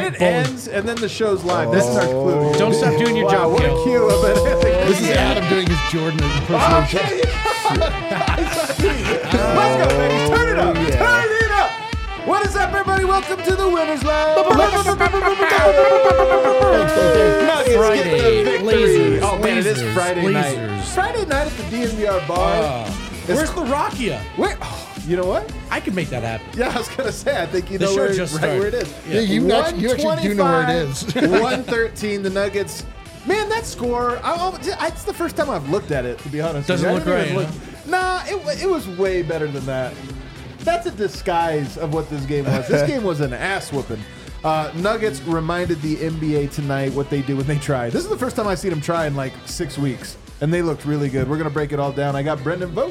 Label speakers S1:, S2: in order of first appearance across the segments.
S1: it ends and then the show's live. This is our clue.
S2: Don't stop doing your job,
S1: What a
S2: Gil.
S1: cue of it.
S3: This is Adam doing his Jordan impersonation.
S1: Okay. Let's go, baby. Turn it up. Turn it up. What is up, everybody? Welcome to the Winners Lounge. Nuggets
S2: Friday,
S1: get the victory.
S2: lasers,
S1: Oh, man, it is
S2: lasers,
S1: Friday night.
S2: lasers.
S1: Friday night at the DNVR bar.
S2: Where's the Rakia?
S1: Where? You know what?
S2: I could make that happen.
S1: Yeah, I was going to say, I think you
S2: The
S1: know
S2: show
S1: where,
S2: just
S1: right where it
S2: started.
S1: is.
S3: Yeah, you actually do know where it is.
S1: 113, the Nuggets. Man, that score, it's the first time I've looked at it, to be honest.
S2: Doesn't
S1: with you.
S2: look
S1: I didn't
S2: right,
S1: even Nah, it was way better than that. That's a disguise of what this game was. This game was an ass whooping. Nuggets reminded the NBA tonight what they do when they try. This is the first time I've seen them try in like 6 weeks, and they looked really good. We're going to break it all down. I got Brendan Vogt.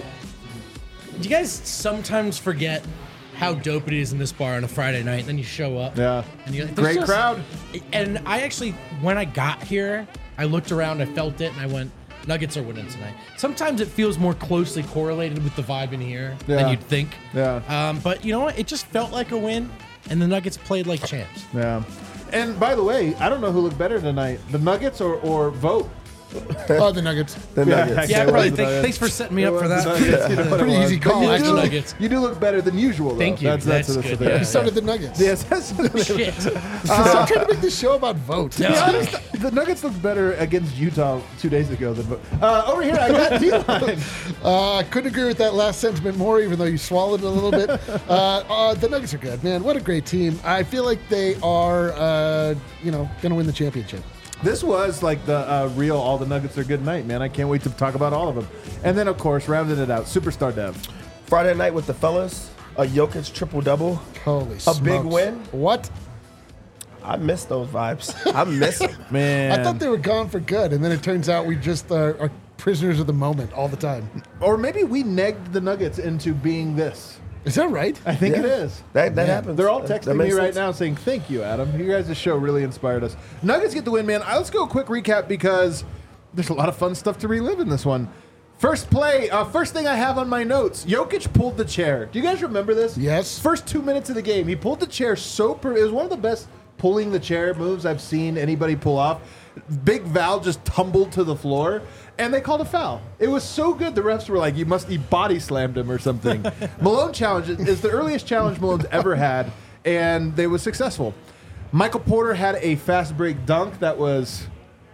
S2: Do you guys sometimes forget how dope it is in this bar on a Friday night, and then you show up?
S1: Yeah.
S2: And you're like,
S1: Great
S2: "There's
S1: crowd.
S2: And I actually, when I got here, I looked around, I felt it, and I went, Nuggets are winning tonight. Sometimes it feels more closely correlated with the vibe in here
S1: Yeah.
S2: than you'd think.
S1: Yeah.
S2: But you know what? It just felt like a win, and the Nuggets played like champs.
S1: Yeah. And by the way, I don't know who looked better tonight, the Nuggets or Vogt.
S3: Oh, the Nuggets.
S4: The Nuggets.
S2: Yeah,
S1: it
S2: probably.
S1: was the Nuggets.
S2: Thanks for setting me up for
S1: It was
S2: that.
S1: the Nuggets, you know what it
S3: Pretty
S1: was.
S3: easy call,
S1: But
S2: actually.
S1: you do,
S2: Nuggets.
S1: you do look better than usual, though.
S2: Thank you. That's
S1: the
S2: good,
S1: thing.
S2: yeah.
S3: So did the Nuggets.
S1: Yes, that's
S2: Shit.
S3: Stop trying to make this show about vote.
S1: To be honest, the Nuggets looked better against Utah 2 days ago than over here. I got D-line.
S3: I couldn't agree with that last sentiment more, even though you swallowed it a little bit. The Nuggets are good, man. What a great team. I feel like they are, going to win the championship.
S1: This was like the real all the Nuggets are good night, man. I can't wait to talk about all of them. And then, of course, rounding it out, Superstar Dev.
S4: Friday night with the fellas, a Jokic triple-double.
S3: Holy
S4: A
S3: smokes.
S4: big win.
S3: What?
S4: I miss those vibes. I miss them.
S1: Man.
S3: I thought they were gone for good, and then it turns out we just are prisoners of the moment all the time.
S1: Or maybe we negged the Nuggets into being this.
S3: Is that right?
S1: I think
S4: Yeah.
S1: it is.
S4: That happens.
S1: They're all
S4: That
S1: texting me
S4: makes
S1: right
S4: sense.
S1: now saying, thank you, Adam. You guys' show really inspired us. Nuggets get the win, man. Let's go a quick recap because there's a lot of fun stuff to relive in this one. First play, first thing I have on my notes, Jokic pulled the chair. Do you guys remember this?
S3: Yes.
S1: First 2 minutes of the game, he pulled the chair it was one of the best pulling the chair moves I've seen anybody pull off. Big Val just tumbled to the floor, and they called a foul. It was so good, the refs were like, he body slammed him or something. Malone challenge is the earliest challenge Malone's ever had, and they was successful. Michael Porter had a fast break dunk that was...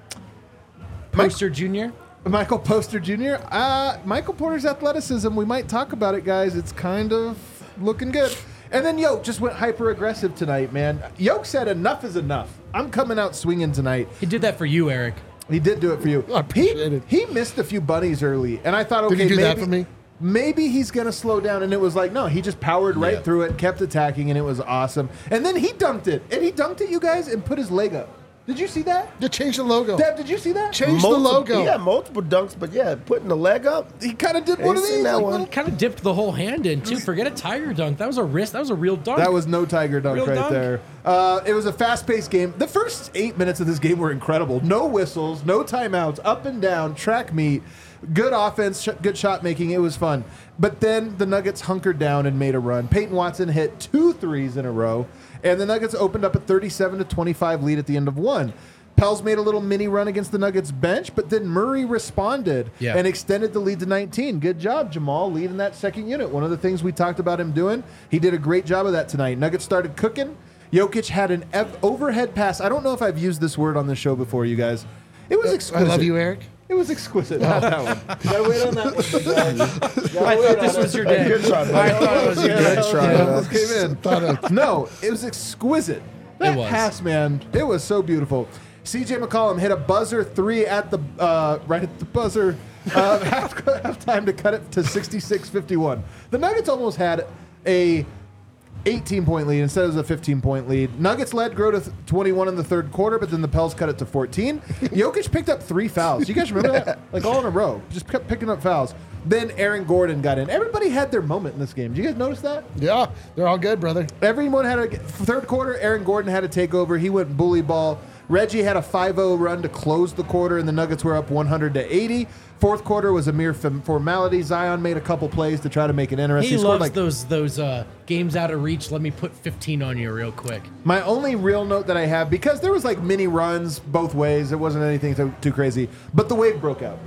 S2: Poster Jr.?
S1: Michael Poster Jr. Michael Porter's athleticism, we might talk about it, guys. It's kind of looking good. And then Yoke just went hyper aggressive tonight, man. Yoke said enough is enough. I'm coming out swinging tonight.
S2: He did that for you, Eric.
S1: He did do it for you.
S3: I appreciate it.
S1: He missed a few bunnies early, and I thought, okay,
S3: Did he do
S1: maybe,
S3: that for me?
S1: maybe he's going to slow down. And it was like, no, he just powered right through it, kept attacking, and it was awesome. And then he dunked it. And he dunked it, you guys, and put his leg up. Did you see that?
S3: You changed the logo.
S1: Deb, did you see that?
S3: Change the logo.
S4: He had multiple dunks, but yeah, putting the leg up.
S1: He kind of did one of
S4: seen
S1: these.
S4: that
S1: like,
S4: one.
S1: little-
S2: Kind of dipped the whole hand in, too. Forget a tiger dunk. That was a wrist. That was a real dunk.
S1: That was no tiger dunk
S2: Real
S1: right
S2: dunk.
S1: there. It was a fast-paced game. The first 8 minutes of this game were incredible. No whistles, no timeouts, up and down, track meet, good offense, good shot making. It was fun. But then the Nuggets hunkered down and made a run. Peyton Watson hit 2 threes in a row, and the Nuggets opened up a 37-25 lead at the end of one. Pels made a little mini run against the Nuggets bench, but then Murray responded and extended the lead to 19. Good job, Jamal, leading that second unit. One of the things we talked about him doing, he did a great job of that tonight. Nuggets started cooking. Jokic had an overhead pass. I don't know if I've used this word on the show before, you guys. It was
S3: I
S1: exquisite.
S3: love you, Eric.
S1: It was exquisite. Not that one. Gotta wait on that one.
S2: I thought this was your day.
S4: Good try, man.
S2: I thought it was your day.
S4: Good try, man.
S1: Came in. No, it was exquisite. That
S2: It was.
S1: pass, man, it was so beautiful. CJ McCollum hit a buzzer 3 at the right at the buzzer halftime to cut it to 66-51. The Nuggets almost had a 18-point lead instead of a 15-point lead. Nuggets led, grow to 21 in the third quarter, but then the Pels cut it to 14. Jokic picked up 3 fouls. You guys remember that? Like all in a row. Just kept picking up fouls. Then Aaron Gordon got in. Everybody had their moment in this game. Did you guys notice that?
S3: Yeah, they're all good, brother.
S1: Everyone had a third quarter. Aaron Gordon had a takeover. He went bully ball. Reggie had a 5-0 run to close the quarter, and the Nuggets were up 100-80. Fourth quarter was a mere formality. Zion made a couple plays to try to make it interesting.
S2: He
S1: scored
S2: loves those games out of reach. Let me put 15 on you real quick.
S1: My only real note that I have, because there was like mini runs both ways, it wasn't anything too crazy, but the wave broke out.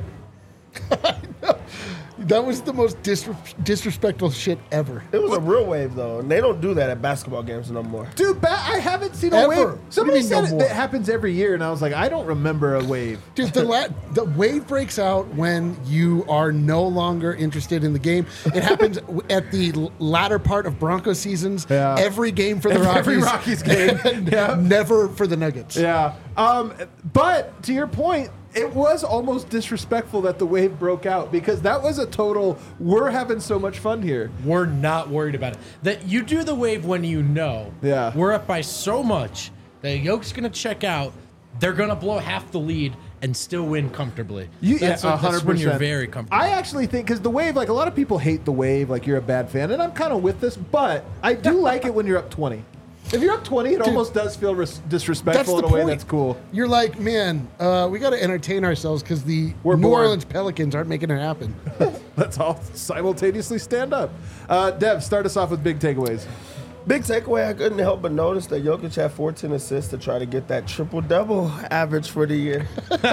S3: That was the most disrespectful shit ever.
S4: It was a real wave, though, and they don't do that at basketball games no more.
S1: Dude, I haven't seen a
S3: Ever.
S1: wave.
S3: What
S1: Somebody
S3: do you mean
S1: said
S3: no
S1: it
S3: more?
S1: happens every year, and I was like, I don't remember a wave.
S3: Dude, the wave breaks out when you are no longer interested in the game. It happens at the latter part of Broncos seasons.
S1: Yeah.
S3: Every game for the Rockies.
S1: Every Rockies game. Yeah.
S3: Never for the Nuggets.
S1: Yeah. But to your point, it was almost disrespectful that the wave broke out because that was a total, we're having so much fun here.
S2: We're not worried about it. That you do the wave when you know.
S1: Yeah.
S2: We're up by so much that Yoke's going to check out. They're going to blow half the lead and still win comfortably. That's
S1: 100%.
S2: when you're very comfortable.
S1: I actually think, because the wave, like a lot of people hate the wave, like you're a bad fan, and I'm kind of with this, but I do like it when you're up 20. If you're up 20, it almost does feel disrespectful in a way that's cool.
S3: You're like, man, we got to entertain ourselves because the
S1: We're
S3: New
S1: bored.
S3: Orleans Pelicans aren't making it happen.
S1: Let's all simultaneously stand up. Dev, start us off with big takeaways.
S4: Big takeaway, I couldn't help but notice that Jokic had 14 assists to try to get that triple-double average for the year.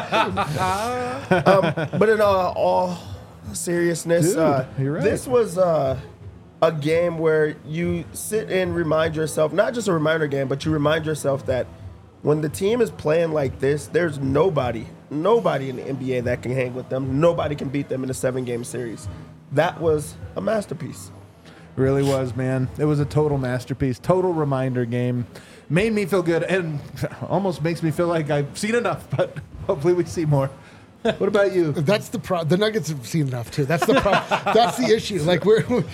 S4: But in all seriousness,
S1: Dude, you're right.
S4: this was a game where you sit and remind yourself, not just a reminder game, but you remind yourself that when the team is playing like this, there's nobody in the NBA that can hang with them. Nobody can beat them in a 7-game series. That was a masterpiece.
S1: Really was, man. It was a total masterpiece, total reminder game. Made me feel good and almost makes me feel like I've seen enough, but hopefully we see more. What about you?
S3: That's the problem. The Nuggets have seen enough too. That's the problem. That's the issue. Like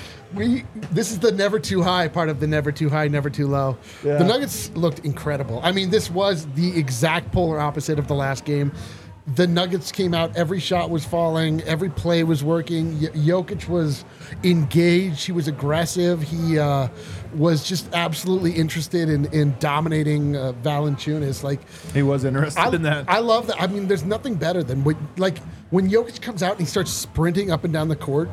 S3: we this is the never too high part of the never too high, never too low.
S1: Yeah.
S3: The Nuggets looked incredible. I mean, this was the exact polar opposite of the last game. The Nuggets came out, every shot was falling, every play was working. Jokic was engaged, he was aggressive, he was just absolutely interested in dominating Valanciunas. Like,
S1: He was interested in that.
S3: I love that. I mean, there's nothing better than when Jokic comes out and he starts sprinting up and down the court.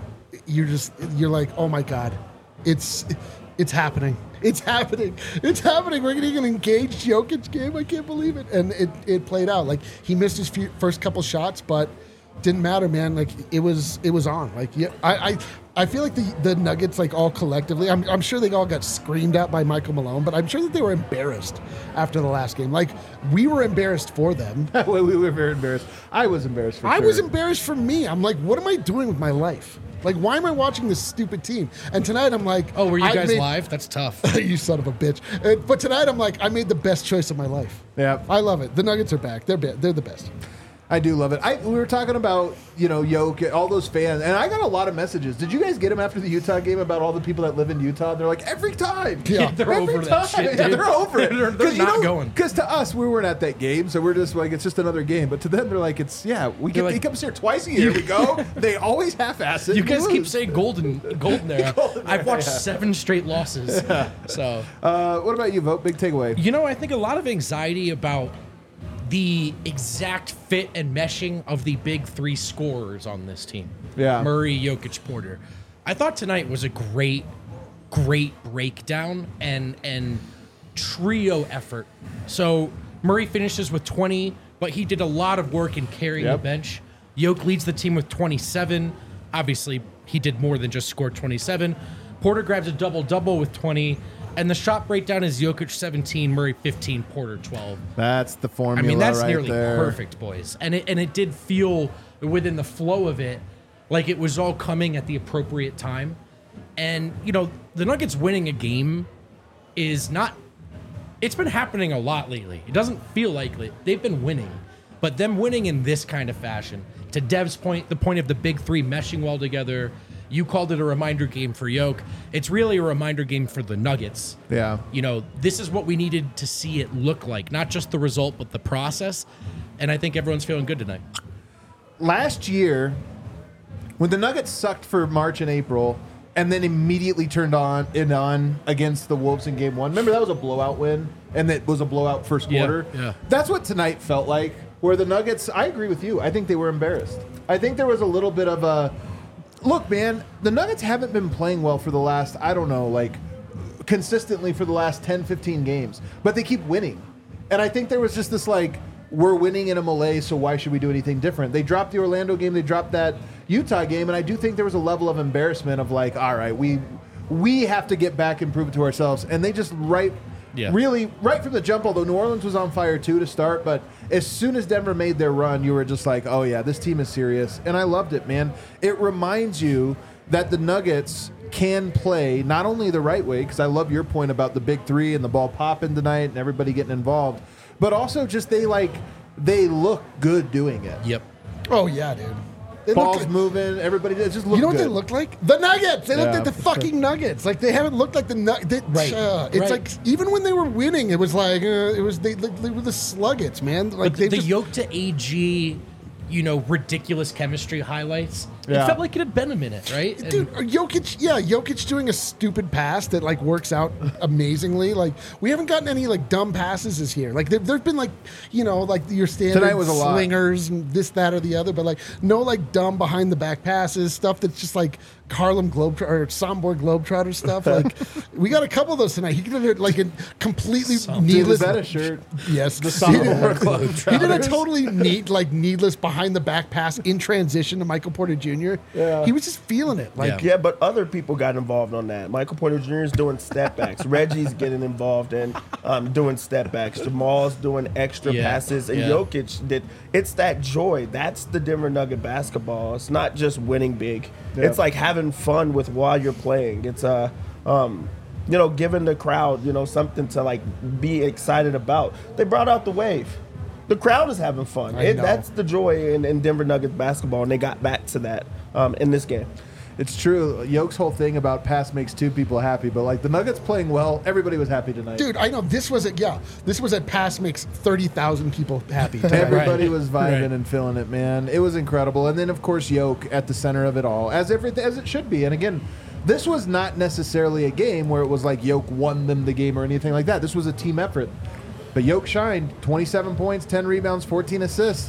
S3: You're like, oh my god, it's happening. It's happening. It's happening. We're getting an engaged Jokic game. I can't believe it. And it played out. Like, he missed his first couple shots, but didn't matter, man. Like, it was on. Like, yeah, I feel like the Nuggets, like, all collectively, I'm sure they all got screamed at by Michael Malone, but I'm sure that they were embarrassed after the last game. Like, we were embarrassed for them.
S1: We were very embarrassed. I was embarrassed for
S3: I
S1: sure.
S3: was embarrassed for me. I'm like, what am I doing with my life? Like, why am I watching this stupid team? And tonight I'm like,
S2: oh, were you guys live? That's tough.
S3: You son of a bitch. But tonight I'm like, I made the best choice of my life.
S1: Yeah.
S3: I love it. The Nuggets are back. They're the best.
S1: I do love it. We were talking about, Jokic, all those fans, and I got a lot of messages. Did you guys get them after the Utah game about all the people that live in Utah? They're like, every time.
S3: Yeah.
S2: They're
S1: Every
S2: over that
S1: time.
S2: shit,
S1: Yeah,
S2: dude.
S1: they're over it.
S2: They're not going.
S1: Because to us, we weren't at that game, so we're just like, it's just another game. But to them, they're like, he comes here twice a year. We go. They always half-ass it.
S2: You
S1: and
S2: guys
S1: we
S2: keep
S1: lose.
S2: saying golden there. I've watched 7 straight losses. So,
S1: What about you, Vote? Big takeaway.
S2: I think a lot of anxiety about the exact fit and meshing of the big 3 scorers on this team.
S1: Yeah.
S2: Murray, Jokic, Porter. I thought tonight was a great breakdown and trio effort. So Murray finishes with 20, but he did a lot of work in carrying the bench. Jokic leads the team with 27. Obviously, he did more than just score 27. Porter grabs a double-double with 20. And the shot breakdown is Jokic 17, Murray 15, Porter 12.
S1: That's the formula.
S2: I mean, that's
S1: right
S2: nearly
S1: there.
S2: perfect, boys. And it did feel within the flow of it like it was all coming at the appropriate time. And, the Nuggets winning a game is not... It's been happening a lot lately. It doesn't feel like they've been winning. But them winning in this kind of fashion, to Dev's point, the point of the big 3 meshing well together... You called it a reminder game for Jokic. It's really a reminder game for the Nuggets.
S1: Yeah.
S2: This is what we needed to see it look like. Not just the result, but the process. And I think everyone's feeling good tonight.
S1: Last year, when the Nuggets sucked for March and April, and then immediately turned on against the Wolves in game 1. Remember, that was a blowout win, and it was a blowout first quarter.
S2: Yeah.
S1: That's what tonight felt like, where the Nuggets, I agree with you. I think they were embarrassed. I think there was a little bit of a, look, man, the Nuggets haven't been playing well for the last, I don't know, like, consistently for the last 10, 15 games, but they keep winning. And I think there was just this, like, we're winning in a malaise, so why should we do anything different? They dropped the Orlando game, they dropped that Utah game, and I do think there was a level of embarrassment of like, all right, we have to get back and prove it to ourselves. And they just really right from the jump, although New Orleans was on fire too to start, but as soon as Denver made their run, you were just like, oh yeah, this team is serious. And I loved it, man. It reminds you that the Nuggets can play not only the right way, because I love your point about the big three and the ball popping tonight and everybody getting involved, but also just they look good doing it.
S2: Yep.
S3: Oh yeah, dude. They
S1: Balls
S3: look,
S1: moving, everybody just look good.
S3: you know what they look like? The Nuggets. They looked
S1: Yeah.
S3: like the fucking Nuggets. Like they haven't looked like the Nuggets.
S2: Right.
S3: It's
S2: Right.
S3: like even when they were winning, it was like they were the Sluggets, man. Like
S2: But
S3: they
S2: the
S3: just,
S2: yoke to AG, ridiculous chemistry highlights.
S1: Yeah.
S2: It felt like it had been a minute, right? And-
S3: Dude, Jokic doing a stupid pass that like works out amazingly. Like we haven't gotten any like dumb passes this year. Like there've been like like your standard
S1: Tonight was a lot.
S3: slingers and this, that, or the other, but like no like dumb behind the back passes, stuff that's just like Harlem Globetrotter or Sombor Globetrotter stuff. Like we got a couple of those tonight. He did like a completely
S1: Dude,
S3: needless.
S1: is that a shirt?
S3: Yes,
S1: The
S3: he did,
S1: Sombor
S3: he did a totally needless behind the back pass in transition to Michael Porter Jr.
S1: Yeah.
S3: He was just feeling it. Like
S4: Yeah, but other people got involved on that. Michael Porter Jr. is doing step backs. Reggie's getting involved in doing step backs. Jamal's doing extra
S2: Yeah,
S4: passes. And
S2: yeah.
S4: Jokic did. It's that joy. That's the Denver Nugget basketball. It's not just winning big.
S1: Yeah.
S4: It's like having fun with while you're playing. It's giving the crowd something to like be excited about. They brought out the wave. The crowd is having fun.
S3: I know.
S4: That's the joy in Denver Nuggets basketball, and they got back to that in this game.
S1: It's true. Yoke's whole thing about pass makes two people happy, but like the Nuggets playing well, everybody was happy tonight.
S3: dude, I know this was a pass makes 30,000 people happy.
S1: Everybody
S2: Right.
S1: was vibing
S2: Right.
S1: and feeling it, man. It was incredible. And then, of course, Yoke at the center of it all, as it should be. And again, this was not necessarily a game where it was like Yoke won them the game or anything like that. This was a team effort. But Yoke shined. 27 points, 10 rebounds, 14 assists.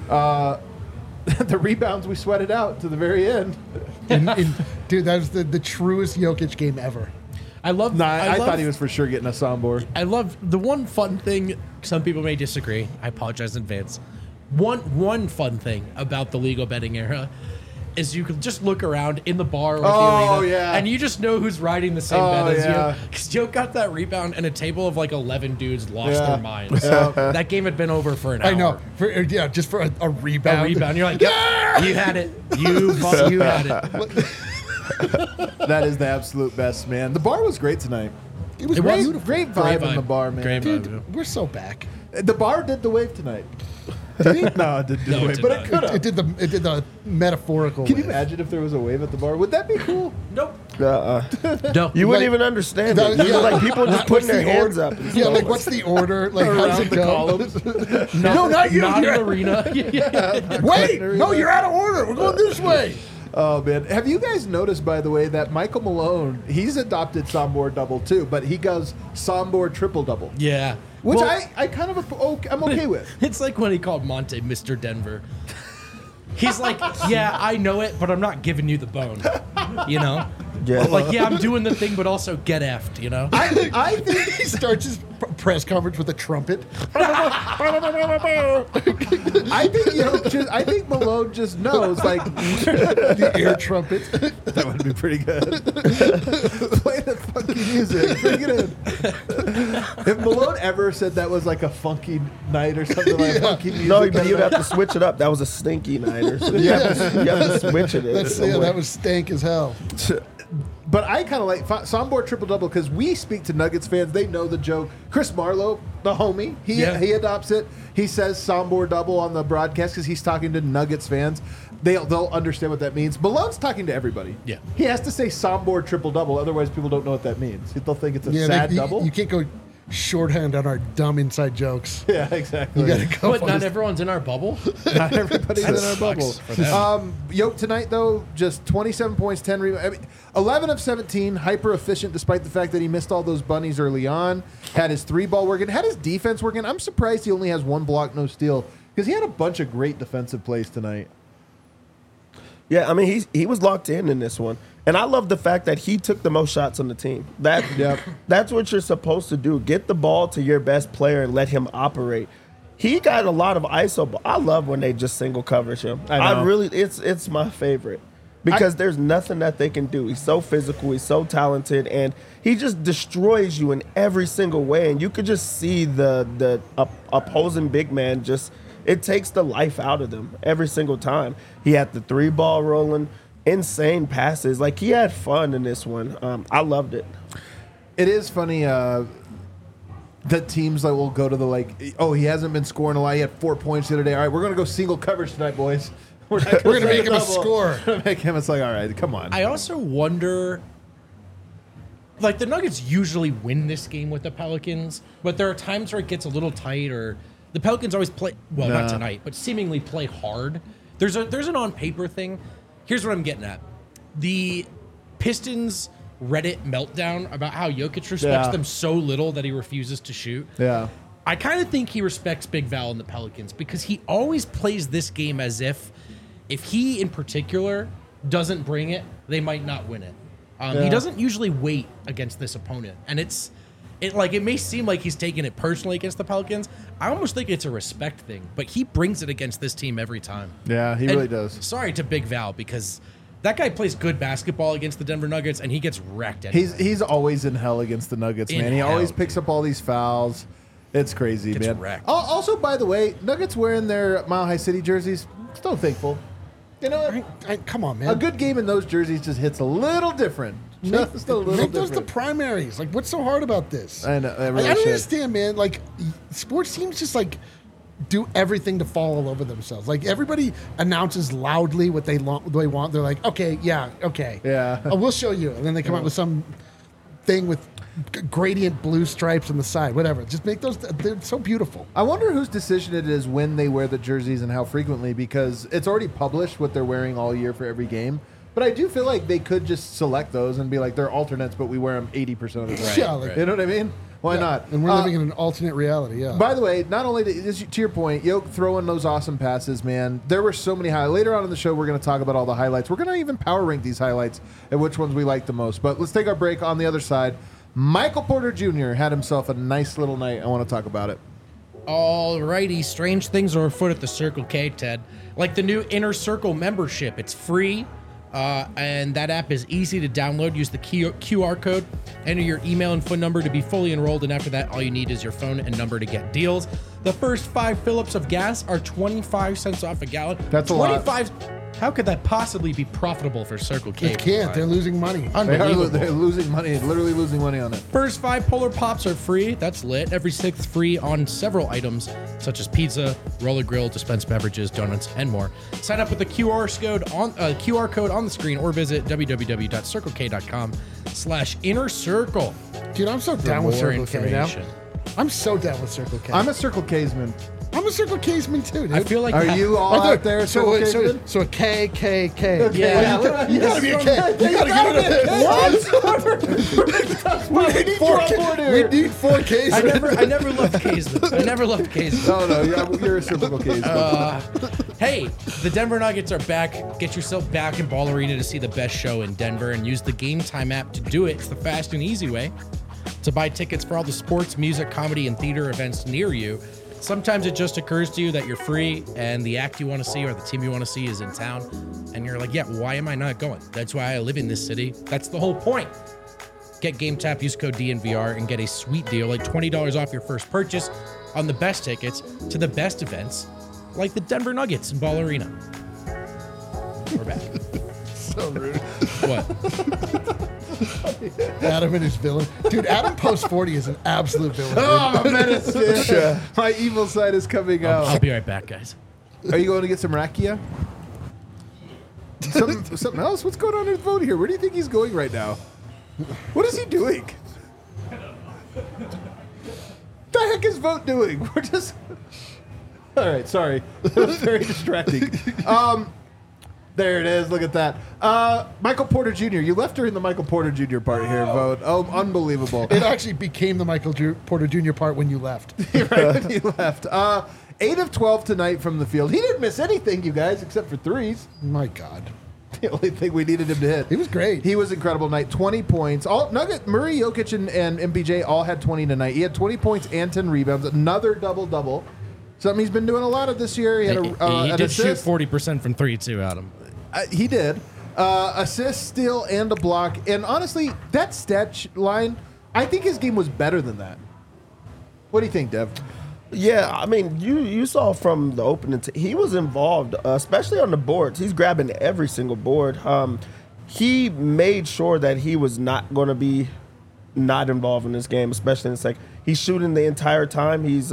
S1: The rebounds we sweated out to the very end.
S3: Dude, that was the truest Jokic game ever.
S2: I love.
S1: I
S2: love-
S1: thought he was for sure getting a soundboard.
S2: I love the one fun thing. Some people may disagree. I apologize in advance. One fun thing about the legal betting era is you can just look around in the bar or the
S1: Oh,
S2: arena,
S1: yeah.
S2: and you just know who's riding the same
S1: Oh,
S2: bet as
S1: yeah.
S2: you. Because Joe got that rebound, and a table of like 11 dudes lost
S1: Yeah.
S2: their minds.
S1: Yeah.
S2: That game had been over for an hour.
S3: I know. Just for a rebound.
S2: A rebound. You're like, yep, you had it. You had it.
S1: That is the absolute best, man. The bar was great tonight.
S3: It was
S2: It was
S3: beautiful.
S1: Great vibe in the bar, man.
S2: Great
S3: Dude,
S2: vibe.
S3: we're so back.
S1: The bar did the wave tonight. Did it? No, it didn't do
S2: No,
S1: the
S2: it
S1: wave,
S2: did
S1: but
S2: not.
S1: it could
S3: It
S1: have.
S3: did the metaphorical.
S1: Can you
S3: wave.
S1: imagine if there was a wave at the bar? Would that be cool?
S2: Nope.
S4: No, you
S3: Like-
S4: wouldn't even understand
S3: That-
S4: it. You'd be
S3: yeah.
S4: like people just
S3: What's
S4: putting their
S3: the
S4: hands
S3: order?
S4: up. and
S3: Yeah,
S4: stuff.
S3: like what's the order? Like how's
S1: Around
S3: it
S1: the
S3: go?
S1: columns.
S3: No, not you.
S2: Not
S3: You're
S2: an arena. Yeah.
S3: Wait, no, you're out of order. We're going this way.
S1: Oh man, have you guys noticed, by the way, that Michael Malone, he's adopted Sombor double too, but he goes Sombor triple double,
S2: Yeah.
S1: which
S2: Well,
S1: I kind of I'm okay with.
S2: It's like when he called Monte Mr. Denver. He's like, yeah, I know it, but I'm not giving you the bone. You know?
S4: Yeah.
S2: Like, yeah, I'm doing the thing, but also get effed, you know?
S1: I think
S3: He starts his press conference with a trumpet.
S1: I think Malone just knows like
S3: The air trumpet.
S1: that would be pretty good. Play the funky music, bring it in. If Malone ever said that was like a funky night or something like funky music,
S4: No, but you'd have to switch it up. That was a stinky nighter. So you have to switch it.
S3: That was stank as hell.
S1: But I kind of like Sombor triple double because we speak to Nuggets fans. They know the joke. Chris Marlowe, the homie, he adopts it. He says Sombor double on the broadcast because he's talking to Nuggets fans. They'll understand what that means. Malone's talking to everybody.
S2: Yeah.
S1: He has to say Sombor triple double, otherwise people don't know what that means. They'll think it's a
S3: Yeah,
S1: sad
S3: you,
S1: double.
S3: You can't go. shorthand on our dumb inside jokes.
S1: Yeah, exactly.
S3: You gotta go.
S2: But
S3: on
S2: not
S3: this-
S2: everyone's in our bubble.
S1: Not everybody's in
S2: That
S1: our bubble.
S2: sucks for them.
S1: Yoke tonight, though, just 27 points, 10 rebounds. I mean, 11 of 17, hyper efficient despite the fact that he missed all those bunnies early on. Had his 3-ball working, had his defense working. I'm surprised he only has 1 block, no steal, because he had a bunch of great defensive plays tonight.
S4: Yeah, I mean, he was locked in this one. And I love the fact that he took the most shots on the team. That's what you're supposed to do. Get the ball to your best player and let him operate. He got a lot of ISO ball. I love when they just single coverage him.
S1: I know.
S4: It's my favorite. Because there's nothing that they can do. He's so physical, he's so talented, and he just destroys you in every single way. And you could just see the opposing big man just, it takes the life out of them every single time. He had the 3-ball rolling, insane passes. Like, he had fun in this one. I loved it.
S1: It is funny that teams that will go to the, oh, he hasn't been scoring a lot. He had 4 points the other day. All right, we're going to go single coverage tonight, boys. We're
S3: We're gonna make him a score.
S1: Make him, it's like, all right, come on.
S2: I also wonder, like, the Nuggets usually win this game with the Pelicans, but there are times where it gets a little tight, or the Pelicans always play, well, not tonight, but seemingly play hard. There's an on-paper thing. Here's what I'm getting at. The Pistons Reddit meltdown about how Jokic respects them so little that he refuses to shoot.
S1: Yeah.
S2: I kind of think he respects Big Val and the Pelicans because he always plays this game as if he in particular doesn't bring it, they might not win it. He doesn't usually wait against this opponent, and it may seem like he's taking it personally against the Pelicans. I almost think it's a respect thing, but he brings it against this team every time.
S1: Yeah, he really does.
S2: Sorry to Big Val because that guy plays good basketball against the Denver Nuggets, and he gets wrecked. Anyway.
S1: He's always in hell against the Nuggets,
S2: In
S1: man. He
S2: hell.
S1: always picks up all these fouls. It's crazy,
S2: Gets
S1: man.
S2: wrecked.
S1: Also, by the way, Nuggets wearing their Mile High City jerseys, still thankful. You know what?
S3: Come on, man.
S1: A good game in those jerseys just hits a little different. Just a little
S3: Make those the
S1: different.
S3: primaries. Like, what's so hard about this?
S1: I know. I
S3: I
S1: really
S3: don't
S1: should.
S3: understand, man. Like, sports teams just like do everything to fall all over themselves. Like, everybody announces loudly what they want. They're like, okay, yeah, okay,
S1: Yeah.
S3: we'll show you. And then they come out with some thing with gradient blue stripes on the side, whatever. Just make those. They're so beautiful.
S1: I wonder whose decision it is when they wear the jerseys and how frequently, because it's already published what they're wearing all year for every game. But I do feel like they could just select those and be like, they're alternates, but we wear them 80% of the time.
S3: Yeah, like-
S1: You know what I mean? Why not?
S3: And we're living in an alternate reality. Yeah.
S1: By the way, not only to your point, Yoke throwing those awesome passes, man. There were so many highlights. Later on in the show, we're going to talk about all the highlights. We're going to even power rank these highlights and which ones we like the most. But let's take our break. On the other side, Michael Porter Jr. had himself a nice little night. I want to talk about it.
S2: Alrighty, strange things are afoot at the Circle K, Ted. Like the new Inner Circle membership. It's free, and that app is easy to download. Use the QR code, enter your email and phone number to be fully enrolled, and after that, all you need is your phone and number to get deals. The first 5 fill-ups of gas are 25 cents off a gallon.
S1: That's a lot.
S2: 25. How could that possibly be profitable for Circle K?
S3: They can't. They're losing money.
S1: They're losing money, literally losing money on it.
S2: First 5 Polar Pops are free. That's lit. Every 6th free on several items, such as pizza, roller grill, dispensed beverages, donuts, and more. Sign up with the QR code on the screen or visit www.circlek.com/innercircle.
S3: Dude, I'm so down with
S2: more
S3: Circle K now.
S2: information.
S3: I'm so down with Circle K.
S1: I'm a Circle K'sman.
S3: I'm a Circle K'sman too, dude.
S2: I feel like
S1: Are you all out there, Circle K'sman?
S3: So a K.
S2: Yeah.
S3: You gotta be a K. You gotta get it a What? We need 4 K. We need 4 Ks.
S2: I never loved K'sman. I never loved K'sman.
S1: No, you're a Circle K'sman.
S2: Hey, the Denver Nuggets are back. Get yourself back in Ball Arena to see the best show in Denver and use the Game Time app to do it. It's the fast and easy way to buy tickets for all the sports, music, comedy, and theater events near you. Sometimes it just occurs to you that you're free and the act you want to see or the team you want to see is in town. And you're like, yeah, why am I not going? That's why I live in this city. That's the whole point. Get GameTap, use code DNVR, and get a sweet deal like $20 off your first purchase on the best tickets to the best events like the Denver Nuggets in Ball Arena. We're back.
S1: So rude.
S2: What?
S3: Adam and his villain. Dude, Adam post 40 is an absolute villain. dude.
S1: Oh, I'm a menace. Yeah. My evil side is coming
S2: I'll
S1: out.
S2: be right back, guys.
S1: Are you going to get some rakia? Something else? What's going on in his phone here? Where do you think he's going right now? What is he doing? the heck is Vote doing? We're just. All right, sorry. That was very distracting. There it is. Look at that. Michael Porter Jr. You left during the Michael Porter Jr. part here, Vote. Oh, unbelievable.
S3: It actually became the Michael Porter Jr. part when you left.
S1: Right when you left. 8 of 12 tonight from the field. He didn't miss anything, you guys, except for threes.
S3: My God.
S1: The only thing we needed him to hit.
S3: He was great.
S1: He was incredible tonight. 20 points. Murray, Jokic, and MPJ all had 20 tonight. He had 20 points and 10 rebounds. Another double-double. Something he's been doing a lot of this year. He had
S2: He
S1: an
S2: did shoot
S1: assist.
S2: 40% from 3 too, Adam.
S1: He did. Assist, steal, and a block. And honestly, that stat line, I think his game was better than that. What do you think, Dev?
S4: Yeah, I mean, you saw from the opening, he was involved, especially on the boards. He's grabbing every single board. He made sure that he was not going to be not involved in this game, especially in the second. He's shooting the entire time. He's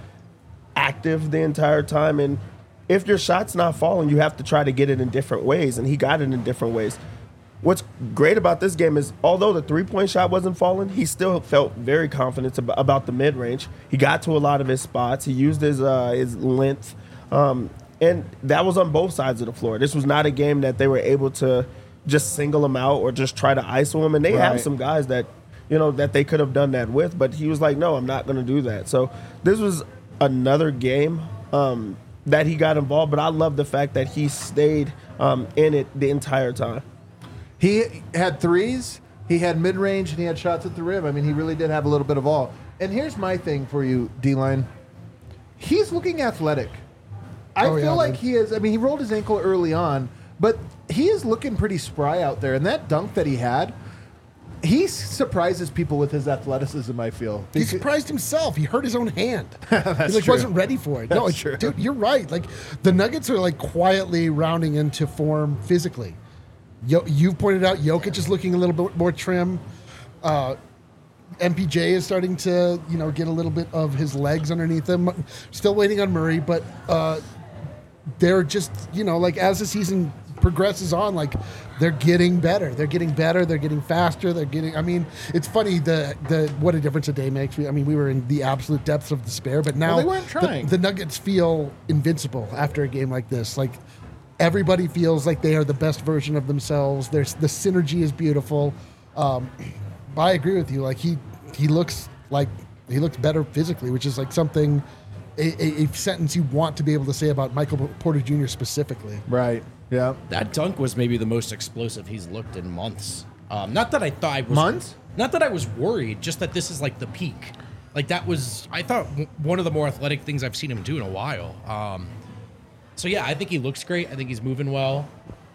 S4: active the entire time. And if your shot's not falling, you have to try to get it in different ways. And he got it in different ways. What's great about this game is, although the three-point shot wasn't falling, he still felt very confident about the mid-range. He got to a lot of his spots. He used his length. And that was on both sides of the floor. This was not a game that they were able to just single him out or just try to ISO him. And they have some guys that, that they could have done that with. But he was like, no, I'm not going to do that. So this was another game that he got involved. But I love the fact that he stayed in it the entire time.
S1: He had threes, he had mid-range, and he had shots at the rim. I mean, he really did have a little bit of all. And here's my thing for you, D-Line. He's looking athletic. I feel like he is. I mean, he rolled his ankle early on, but he is looking pretty spry out there. And that dunk that he had, he surprises people with his athleticism, I feel.
S3: He surprised himself. He hurt his own hand.
S1: That's
S3: he
S1: true.
S3: wasn't ready for it. No,
S1: That's true.
S3: Dude, you're right. Like, the Nuggets are quietly rounding into form physically. You've pointed out Jokic is looking a little bit more trim. MPJ is starting to, get a little bit of his legs underneath him. Still waiting on Murray, but they're just, as the season progresses on, they're getting better. They're getting better. They're getting faster. It's funny what a difference a day makes. We were in the absolute depths of despair, but now
S1: they weren't trying.
S3: The Nuggets feel invincible after a game like this. Everybody feels like they are the best version of themselves. The synergy is beautiful. I agree with you. He looks better physically, which is something, a sentence you want to be able to say about Michael Porter Jr. specifically.
S1: Right. Yeah.
S2: That dunk was maybe the most explosive he's looked in months. Not that I thought I was
S1: months.
S2: Not that I was worried. Just that this is the peak. That was, I thought, one of the more athletic things I've seen him do in a while. So, yeah, I think he looks great. I think he's moving well.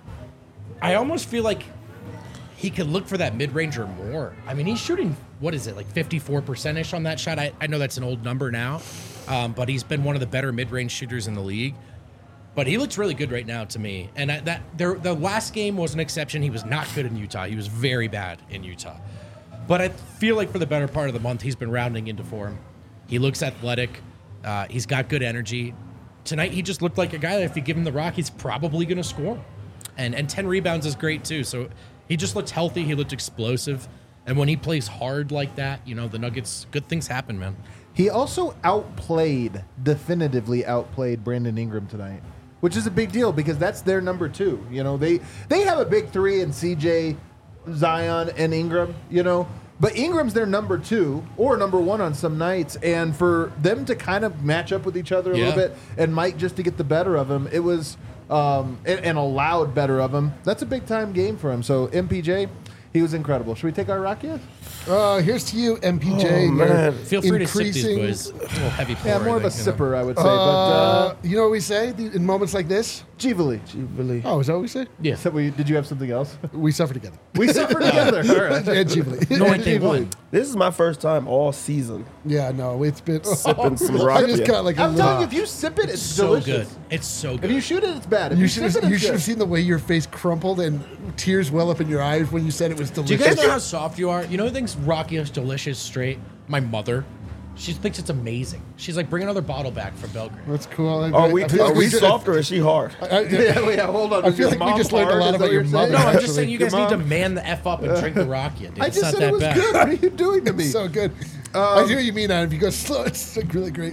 S2: I almost feel like he could look for that mid-range or more. I mean, he's shooting, 54%-ish on that shot. I know that's an old number now, but he's been one of the better mid-range shooters in the league. But he looks really good right now to me. And the last game was an exception. He was not good in Utah. He was very bad in Utah. But I feel like for the better part of the month, he's been rounding into form. He looks athletic. He's got good energy. Tonight, he just looked like a guy that if you give him the rock, he's probably going to score. And 10 rebounds is great, too. So he just looked healthy. He looked explosive. And when he plays hard like that, the Nuggets, good things happen, man.
S1: He also definitively outplayed Brandon Ingram tonight, which is a big deal because that's their number 2. They have a big 3 in CJ, Zion, and Ingram, But Ingram's their number 2 or number 1 on some nights, and for them to kind of match up with each other a little bit, and Mike just to get the better of him, it was and allowed better of him. That's a big time game for him. So MPJ, he was incredible. Should we take our rock yet?
S3: Here's to you, MPJ.
S4: Oh, man.
S2: Feel free to sip these, boys. It's a little heavy pour.
S1: Yeah, more of a sipper, I would say. But
S3: you know what we say in moments like this?
S1: Givali.
S3: Oh, is that what we say?
S2: Yeah.
S1: So did you have something else?
S3: We suffer together.
S1: We suffer together. All right.
S3: And Givali.
S2: No one can win.
S4: This is my first time all season
S3: Yeah, no, it's been
S4: sipping some
S3: I just
S4: Rakia.
S3: got a
S1: I'm
S3: little.
S1: telling you, if you sip it, it's
S2: So
S1: delicious.
S2: good. It's so
S1: If
S2: good.
S1: you shoot it, it's bad. If
S3: You
S1: you
S3: should
S1: sip it, it's
S3: have
S1: good.
S3: seen the way your face crumpled and tears well up in your eyes when you said it was
S2: Do you
S3: delicious.
S2: guys know how soft you are? You know who thinks Rakia is delicious straight? My mother. She thinks it's amazing. She's like, bring another bottle back from Belgrade.
S3: That's cool.
S4: Are we soft or is she hard?
S1: Yeah, hold on.
S3: I
S1: Is
S3: feel
S1: your
S3: like we
S1: mom
S3: just learned a
S1: hard?
S3: lot
S1: Is
S3: about
S1: that
S3: your
S1: what you're
S3: mother.
S2: No,
S1: saying?
S2: I'm just
S3: Actually,
S2: saying you
S1: your
S2: guys need to
S1: mom-
S2: man the F up and drink the Rakia, dude.
S1: I
S2: It's
S1: just
S2: not
S1: said
S2: that
S1: it was
S2: bad.
S1: good. What are you doing to me?
S3: So good. I hear you mean that. If you go slow, it's like really great.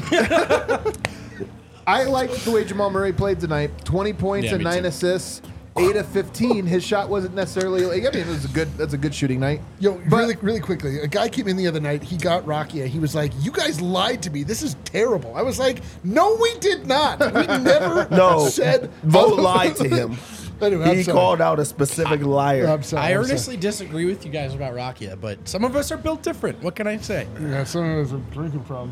S1: I liked the way Jamal Murray played tonight. 20 points
S2: Yeah,
S1: and
S2: me
S1: 9
S2: too.
S1: assists. 8 of 15. His shot wasn't necessarily. I mean, that's a good shooting night.
S3: Yo, really quickly, a guy came in the other night. He got Rakia. He was like, "You guys lied to me. This is terrible." I was like, "No, we did not. We never said."
S4: Vote lied to him.
S3: Anyway, I'm
S4: He
S3: sorry.
S4: called out a specific liar.
S3: I'm sorry.
S2: I
S3: I'm sorry.
S2: earnestly disagree with you guys about Rakia, but some of us are built different. What can I say?
S3: Yeah, some of us are drinking from.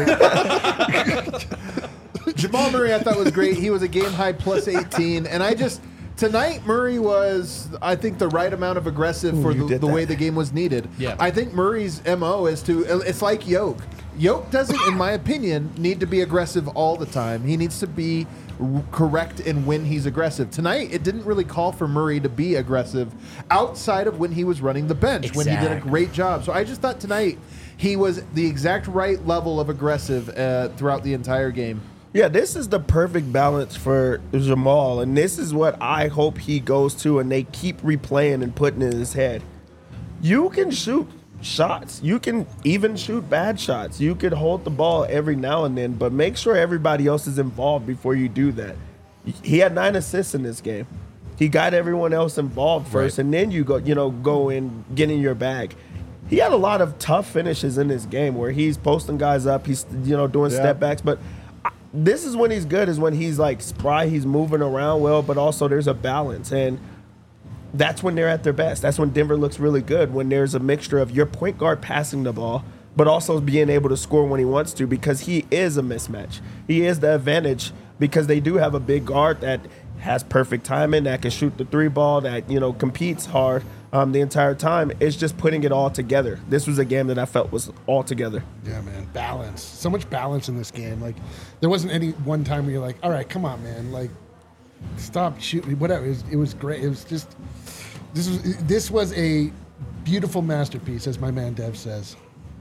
S1: Jamal Murray, I thought was great. He was a game high plus 18, and tonight Murray was, I think, the right amount of aggressive for the way the game was needed.
S2: Yeah.
S1: I think Murray's MO is it's like Yoke. Yoke doesn't, in my opinion, need to be aggressive all the time. He needs to be correct in when he's aggressive. Tonight, it didn't really call for Murray to be aggressive outside of when he was running the bench, when he did a
S2: Exactly.
S1: great job. So I just thought tonight he was the exact right level of aggressive throughout the entire game.
S4: Yeah, this is the perfect balance for Jamal, and this is what I hope he goes to, and they keep replaying and putting in his head. You can shoot shots. You can even shoot bad shots. You could hold the ball every now and then, but make sure everybody else is involved before you do that. He had 9 assists in this game. He got everyone else involved first,
S2: Right.
S4: and then you go in, get in your bag. He had a lot of tough finishes in this game where he's posting guys up, he's doing step backs, but this is when he's good, is when he's like spry, he's moving around well, but also there's a balance, and that's when they're at their best. That's when Denver looks really good, when there's a mixture of your point guard passing the ball, but also being able to score when he wants to, because he is a mismatch. He is the advantage because they do have a big guard that has perfect timing, that can shoot the 3 ball, that competes hard the entire time. It's just putting it all together. This was a game that I felt was all together.
S3: Yeah, man, balance. So much balance in this game. Like, there wasn't any one time where you're like, "All right, come on, man. Like, stop shooting." Whatever. It was great. It was just this was a beautiful masterpiece, as my man Dev says.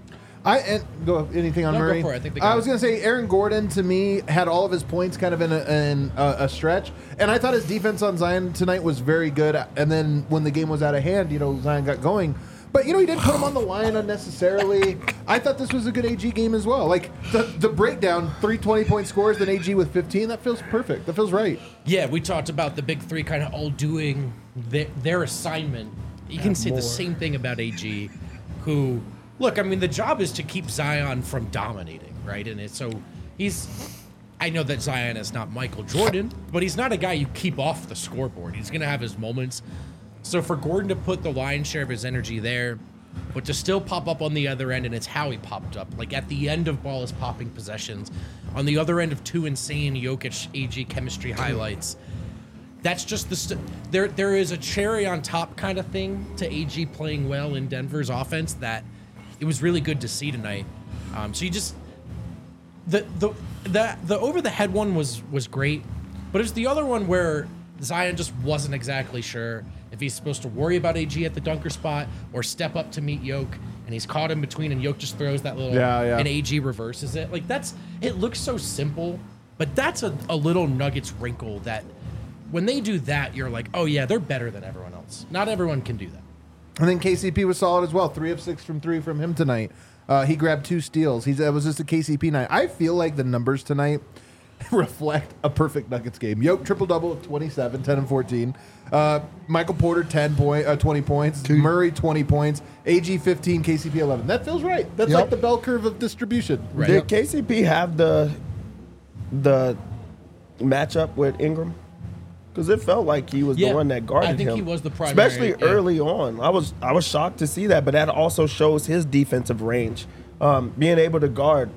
S1: Go anything on
S2: No, go
S1: Murray?
S2: for it. I think they got
S1: was
S2: it.
S1: going to say Aaron Gordon to me had all of his points kind of in a stretch, and I thought his defense on Zion tonight was very good. And then when the game was out of hand, Zion got going. But he didn't put him on the line unnecessarily. I thought this was a good AG game as well. Like the breakdown, 3 20-point scores, then AG with 15. That feels perfect. That feels right.
S2: Yeah, we talked about the big three kind of all doing their assignment. You can say the same thing about AG, who, look, I mean, the job is to keep Zion from dominating, right? And I know that Zion is not Michael Jordan, but he's not a guy you keep off the scoreboard. He's going to have his moments. So for Gordon to put the lion's share of his energy there, but to still pop up on the other end, and it's how he popped up. Like at the end of ball is popping possessions, on the other end of 2 insane Jokic AG chemistry highlights. That's just there is a cherry on top kind of thing to AG playing well in Denver's offense that it was really good to see tonight. So you just the over the head one was great, but it's the other one where Zion just wasn't exactly sure if he's supposed to worry about AG at the dunker spot or step up to meet Yoke, and he's caught in between, and Yoke just throws that little, and AG reverses it. Like it looks so simple, but that's a little Nuggets wrinkle that when they do that, you're like, oh yeah, they're better than everyone else. Not everyone can do that.
S1: And then KCP was solid as well. 3 of 6 from 3 from him tonight. He grabbed 2 steals. It was just a KCP night. I feel like the numbers tonight reflect a perfect Nuggets game. Yoke triple-double of 27, 10 and 14. Michael Porter 20 points. Murray 20 points. AG 15, KCP 11. That feels right. That's like the bell curve of distribution.
S2: Right.
S4: Did KCP have the matchup with Ingram? Because it felt like he was the one that guarded him.
S2: I think he was the primary.
S4: Especially early on. I was shocked to see that, but that also shows his defensive range. Being able to guard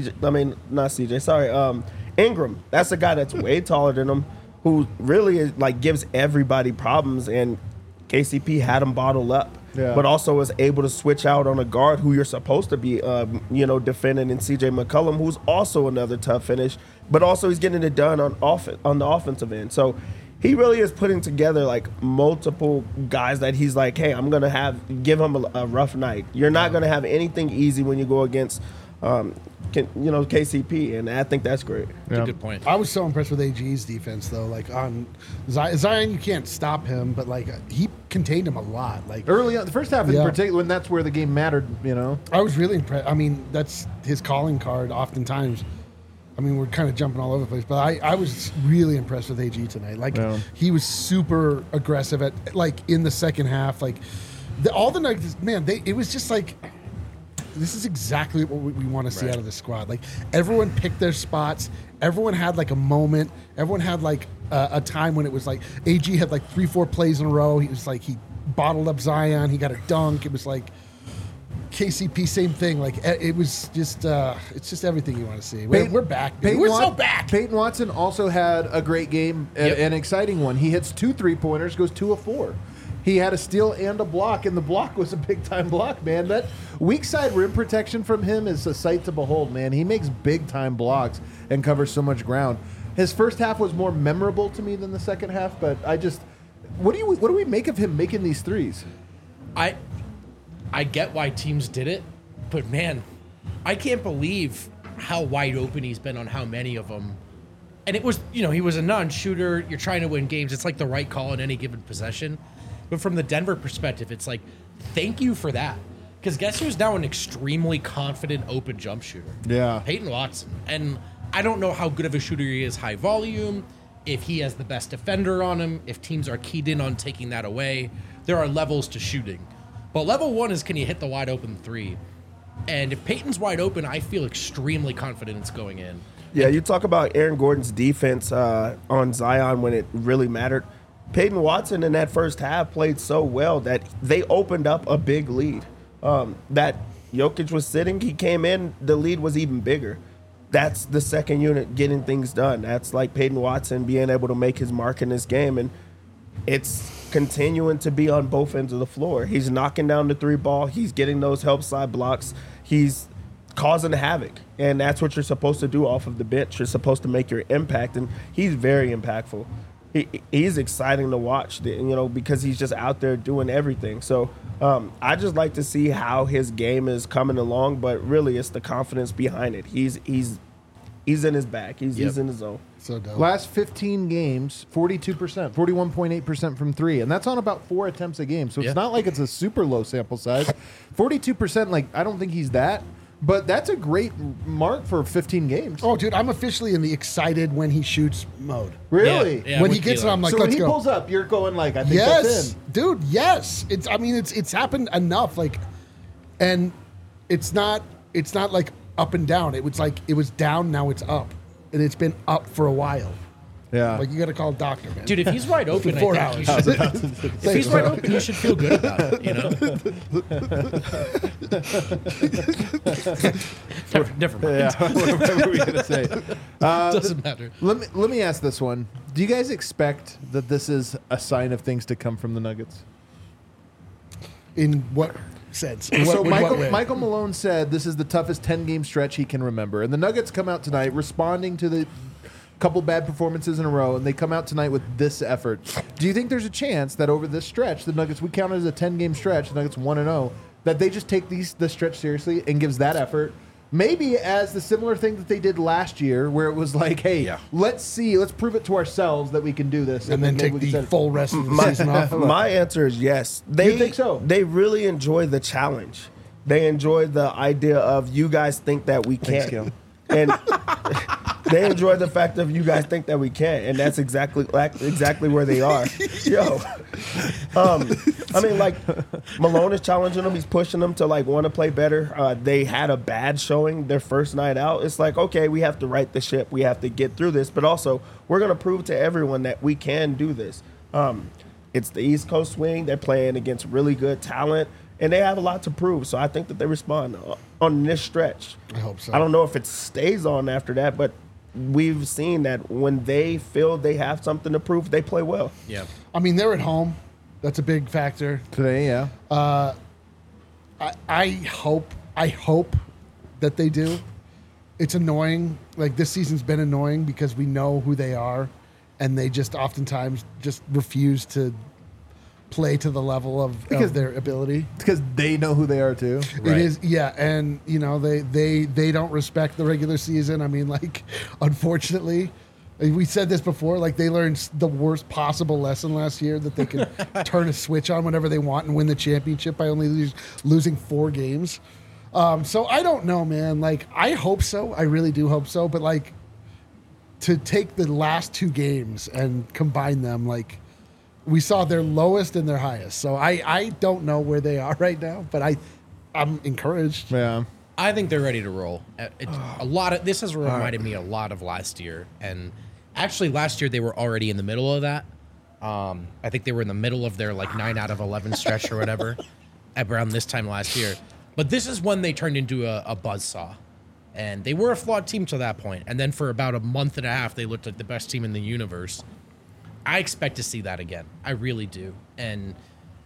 S4: Ingram. That's a guy that's way taller than him, who really is, gives everybody problems, and KCP had him bottled up.
S1: Yeah.
S4: But also was able to switch out on a guard who you're supposed to be, defending in CJ McCollum, who's also another tough finish. But also he's getting it done on the offensive end. So he really is putting together multiple guys that he's like, hey, I'm gonna give him a rough night. You're not gonna have anything easy when you go against KCP, and I think that's great.
S2: That's a good point.
S3: I was so impressed with AG's defense, though. Like on Zion, you can't stop him, but like he contained him a lot. Like
S1: Early on, the first half in
S3: Yeah.
S1: particular, when that's where the game mattered,
S3: I was really impressed. I mean, that's his calling card. Oftentimes, I mean, we're kind of jumping all over the place, but I was really impressed with AG tonight. Like he was super aggressive in the second half. Like all the Nuggets, man, it was just like. This is exactly what we want to see out of the squad. Like everyone picked their spots. Everyone had like a moment. Everyone had like a time when it was like AG had like 3-4 plays in a row. He was like he bottled up Zion. He got a dunk. It was like KCP, same thing. Like it was just it's just everything you want to see. We're back. Dude. We're so back.
S1: Peyton Watson also had a great game, an exciting one. He hits 2 3-pointers, goes 2 of 4. He had a steal and a block, and the block was a big-time block, man. That weak side rim protection from him is a sight to behold, man. He makes big-time blocks and covers so much ground. His first half was more memorable to me than the second half, but what do we make of him making these threes?
S2: I get why teams did it, but man, I can't believe how wide open he's been on how many of them. And it was, he was a non-shooter. You're trying to win games. It's like the right call in any given possession. But from the Denver perspective, it's like, thank you for that. Because guess who's now an extremely confident open jump shooter?
S1: Yeah.
S2: Peyton Watson. And I don't know how good of a shooter he is high volume, if he has the best defender on him, if teams are keyed in on taking that away. There are levels to shooting. But level 1 is, can you hit the wide open 3? And if Peyton's wide open, I feel extremely confident it's going in.
S4: Yeah, you talk about Aaron Gordon's defense on Zion when it really mattered. Peyton Watson in that first half played so well that they opened up a big lead. That Jokic was sitting, he came in, the lead was even bigger. That's the second unit getting things done. That's like Peyton Watson being able to make his mark in this game, and it's continuing to be on both ends of the floor. He's knocking down the 3 ball. He's getting those help side blocks. He's causing havoc, and that's what you're supposed to do off of the bench. You're supposed to make your impact, and he's very impactful. He's exciting to watch, because he's just out there doing everything. So I just like to see how his game is coming along, but really it's the confidence behind it. He's in his bag. He's in his zone.
S3: So dope.
S1: Last 15 games, 42%, 41.8% from 3, and that's on about 4 attempts a game. So it's not like it's a super low sample size. 42%, like I don't think he's that. But that's a great mark for 15 games.
S3: Oh, dude, I'm officially in the excited when he shoots mode.
S1: Really?
S2: Yeah,
S3: when
S2: with
S3: he gets it,
S2: Keelan.
S3: I'm like,
S1: So when
S3: let's
S1: he
S3: go.
S1: pulls up, you're going like, I think that's
S3: Yes,
S1: in.
S3: dude. Yes, it's happened enough. Like, and it's not like up and down. It was like it was down, now it's up, and it's been up for a while.
S1: Yeah.
S3: Like you got to call a doctor, man.
S2: Dude, if he's wide open,
S3: 4
S2: I think
S3: hours.
S2: if he's wide open, you should feel good about it, Never mind.
S1: Yeah. What were we going to say?
S2: Doesn't matter.
S1: Let me ask this one. Do you guys expect that this is a sign of things to come from the Nuggets?
S3: In what sense?
S1: So
S3: In what way?
S1: Michael Malone said this is the toughest 10-game stretch he can remember. And the Nuggets come out tonight responding to the couple bad performances in a row, and they come out tonight with this effort. Do you think there's a chance that over this stretch, the Nuggets, we count it as a 10-game stretch, the Nuggets 1-0, that they just take the stretch seriously and gives that effort? Maybe as the similar thing that they did last year, where it was like, hey, let's prove it to ourselves that we can do this.
S3: and then
S1: maybe
S3: take
S1: we can
S3: the
S1: set it-
S3: full rest of the season off.
S4: My answer is yes.
S1: You think so?
S4: They really enjoy the challenge. They enjoy the idea of you guys think that we can't.
S1: Cam.
S4: And they enjoy the fact of you guys think that we can't, and that's exactly where they are. Yo, I mean, like Malone is challenging them. He's pushing them to like want to play better. They had a bad showing their first night out. It's like, okay, we have to right the ship. We have to get through this, but also we're gonna prove to everyone that we can do this. It's the East Coast swing. They're playing against really good talent, and they have a lot to prove. So I think that they respond on this stretch.
S3: I hope so.
S4: I don't know if it stays on after that, but we've seen that when they feel they have something to prove, they play well.
S2: Yeah.
S3: I mean, they're at home. That's a big factor.
S1: Today, yeah.
S3: I hope that they do. It's annoying. Like this season's been annoying because we know who they are, and they just oftentimes just refuse to play to the level of their ability.
S1: Because they know who they are too.
S3: It is, yeah, and you know they don't respect the regular season. I mean, like, unfortunately, we said this before. Like, they learned the worst possible lesson last year, that they can turn a switch on whenever they want and win the championship by only losing 4 games. So I don't know, man. Like, I hope so. I really do hope so. But like, to take the last 2 games and combine them, like, we saw their lowest and their highest. So I don't know where they are right now, but I'm encouraged.
S1: Yeah.
S2: I think they're ready to roll. This has reminded me a lot of last year, and actually last year they were already in the middle of that. I think they were in the middle of their like 9 out of 11 stretch or whatever around this time last year. But this is when they turned into a buzzsaw, and they were a flawed team to that point. And then for about a month and a half, they looked like the best team in the universe. I expect to see that again. I really do. And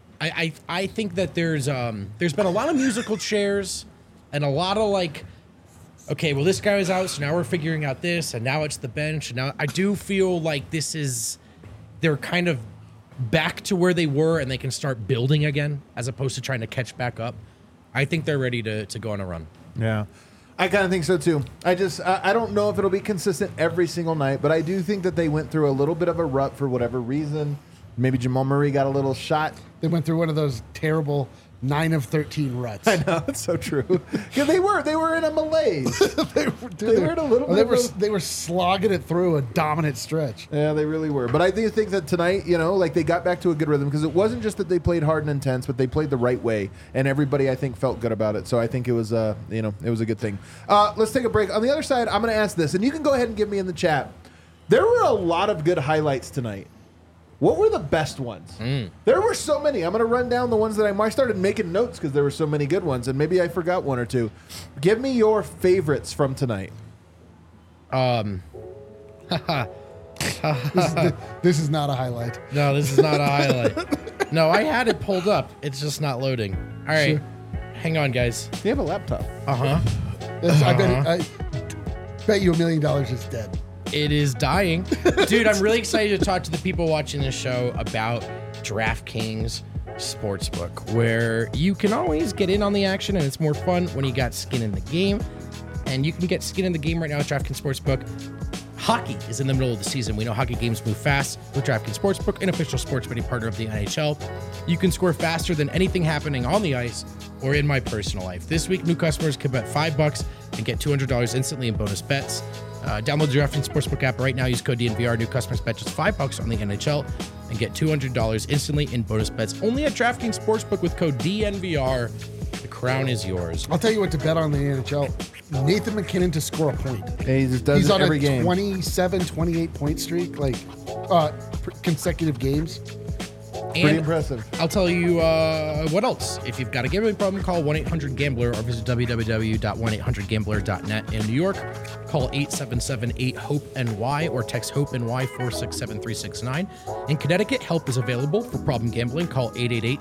S2: I think that there's been a lot of musical chairs and a lot of like, okay, well, this guy was out, so now we're figuring out this, and now it's the bench. And now I do feel like they're kind of back to where they were, and they can start building again as opposed to trying to catch back up. I think they're ready to go on a run.
S1: Yeah. I kind of think so too. I don't know if it'll be consistent every single night, but I do think that they went through a little bit of a rut for whatever reason. Maybe Jamal Murray got a little shot.
S3: They went through one of those terrible 9 of 13 ruts.
S1: I know, it's so true. Yeah, they were in a malaise. They were in a little bit.
S3: They were slogging it through a dominant stretch.
S1: Yeah, they really were. But I do think that tonight, like they got back to a good rhythm, because it wasn't just that they played hard and intense, but they played the right way, and everybody I think felt good about it. So I think it was it was a good thing. Let's take a break. On the other side, I'm going to ask this, and you can go ahead and give me in the chat. There were a lot of good highlights tonight. What were the best ones? There were so many. I'm going to run down the ones that I started making notes because there were so many good ones, and maybe I forgot one or two. Give me your favorites from tonight.
S3: This is not a highlight.
S2: No, this is not a highlight. No, I had it pulled up. It's just not loading. All right.
S3: Sure.
S2: Hang on, guys.
S1: You have a laptop.
S2: Uh-huh.
S3: I bet you $1 million is dead.
S2: It is dying. Dude, I'm really excited to talk to the people watching this show about DraftKings Sportsbook, where you can always get in on the action, and it's more fun when you got skin in the game. And you can get skin in the game right now at DraftKings Sportsbook. Hockey is in the middle of the season. We know hockey games move fast with DraftKings Sportsbook, an official sports betting partner of the NHL. You can score faster than anything happening on the ice or in my personal life. This week, new customers can bet $5 and get $200 instantly in bonus bets. Download the DraftKings Sportsbook app right now. Use code DNVR. New customers bet just $5 on the NHL and get $200 instantly in bonus bets. Only at DraftKings Sportsbook with code DNVR. The crown is yours.
S3: I'll tell you what to bet on the NHL. Nathan McKinnon to score a point.
S1: Hey, he just does
S3: He's
S1: it
S3: on
S1: every
S3: a
S1: game.
S3: 27, 28 point streak, consecutive games.
S1: Pretty impressive.
S2: I'll tell you what else. If you've got a gambling problem, call 1-800-GAMBLER or visit www.1800gambler.net. In New York, call 877-8-HOPE-NY or text HOPE-NY 467-369. In Connecticut, help is available for problem gambling. Call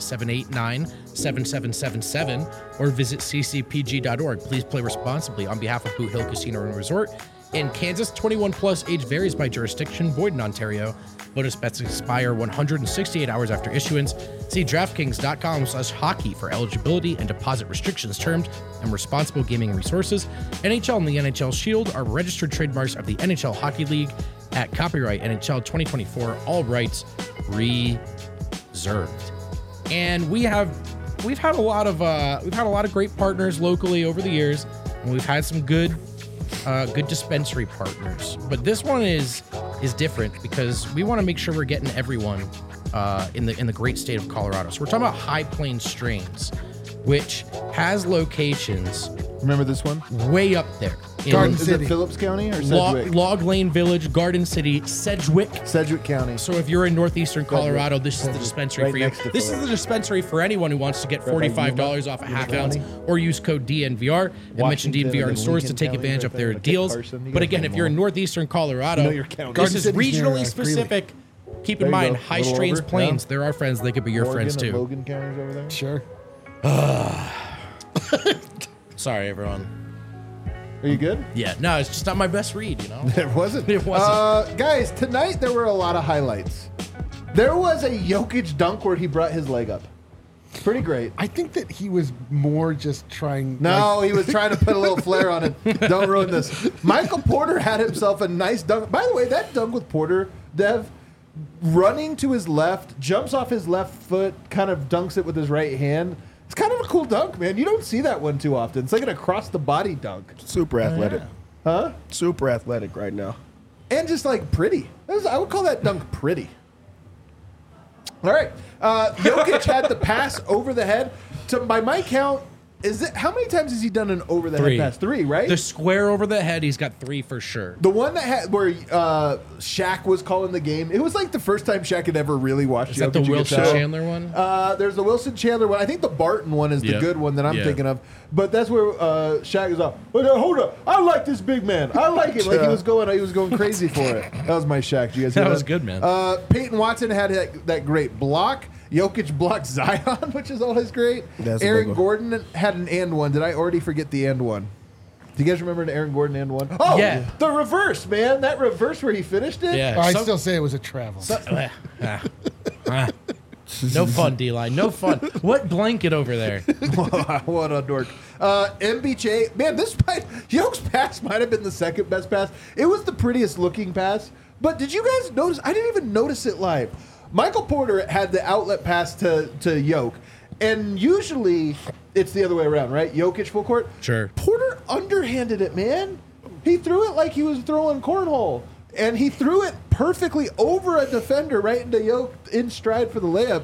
S2: 888-789-7777 or visit ccpg.org. Please play responsibly on behalf of Boot Hill Casino and Resort. In Kansas, 21 plus, age varies by jurisdiction, void in Ontario. Bonus bets expire 168 hours after issuance. See DraftKings.com/hockey for eligibility and deposit restrictions, terms, and responsible gaming resources. NHL and the NHL Shield are registered trademarks of the NHL Hockey League at copyright NHL 2024, all rights reserved. And we've had a lot of great partners locally over the years, and we've had some good dispensary partners, but this one is different because we want to make sure we're getting everyone in the great state of Colorado. So we're talking about High Plains Strains, which has locations.
S1: Remember this one?
S2: Way up there.
S3: Garden
S1: Is
S3: City.
S1: it Phillips County or Sedgwick?
S2: Log Lane Village, Garden City, Sedgwick.
S1: Sedgwick County.
S2: So if you're in northeastern Colorado, this is the dispensary
S1: Right
S2: for you.
S1: next to
S2: This is
S1: Phillips.
S2: the dispensary for anyone who wants to get $45 off a half ounce or use code DNVR and mention
S1: Washington
S2: DNVR in
S1: and
S2: stores to
S1: Lincoln
S2: take
S1: Counties
S2: advantage of
S1: right
S2: their
S1: there. Kit
S2: deals.
S1: Carson, you
S2: But
S1: guys
S2: again,
S1: know
S2: if
S1: them
S2: you're in
S1: all.
S2: northeastern Colorado,
S1: You know your county.
S2: this
S3: Garden
S2: is
S3: City's near,
S2: regionally
S3: Greeley.
S2: specific. Keep
S1: There
S2: in
S1: you
S2: mind,
S1: go.
S2: High
S1: Little
S2: Strains
S1: over,
S2: Plains,
S1: yeah.
S2: they're our friends. They could be your
S1: Morgan
S2: friends
S1: and
S2: too.
S1: Logan counties over there.
S3: Sure.
S2: Sorry, everyone.
S1: Are you good?
S2: Yeah, no, it's just not my best read, you know?
S1: It wasn't.
S2: It wasn't.
S1: Guys, tonight there were a lot of highlights. There was a Jokic dunk where he brought his leg up. Pretty great.
S3: I think that he was more just trying.
S1: No, he was trying to put a little flair on it. Don't ruin this. Michael Porter had himself a nice dunk. By the way, that dunk with Porter, Dev, running to his left, jumps off his left foot, kind of dunks it with his right hand. It's kind of a cool dunk, man. You don't see that one too often. It's like an across-the-body dunk.
S4: Super athletic.
S1: Huh?
S4: Super athletic right now.
S1: And just, like, pretty. I would call that dunk pretty. All right. Jokic had the pass over the head. By my count, how many times has he done an over the head pass? 3, right?
S2: The square over the head, he's got 3 for sure.
S1: The one that had where Shaq was calling the game, it was like the first time Shaq had ever really watched.
S2: Is that the Wilson Chandler one?
S1: There's the Wilson Chandler one. I think the Barton one is the good one that I'm thinking of. But that's where Shaq is up. Hold up! I like this big man. I like it. Like he was going crazy for it. That was my Shaq. Do you guys hear
S2: That was good, man.
S1: Peyton Watson had that great block. Jokic blocked Zion, which is always great.
S4: That's a big
S1: Aaron
S4: one.
S1: Gordon had an and one. Did I already forget the and one? Do you guys remember an Aaron Gordon and one? Oh,
S2: Yeah.
S1: The reverse, man. That reverse where he finished it.
S2: Yeah.
S3: I still say it was a travel.
S2: No fun, D-line. No fun. What blanket over there?
S1: What a dork. MBJ, man, Yoke's pass might have been the second best pass. It was the prettiest looking pass. But did you guys notice? I didn't even notice it live. Michael Porter had the outlet pass to Yoke. And usually it's the other way around, right? Jokic full court.
S2: Sure.
S1: Porter underhanded it, man. He threw it like he was throwing cornhole. And he threw it perfectly over a defender right into Yoke in stride for the layup.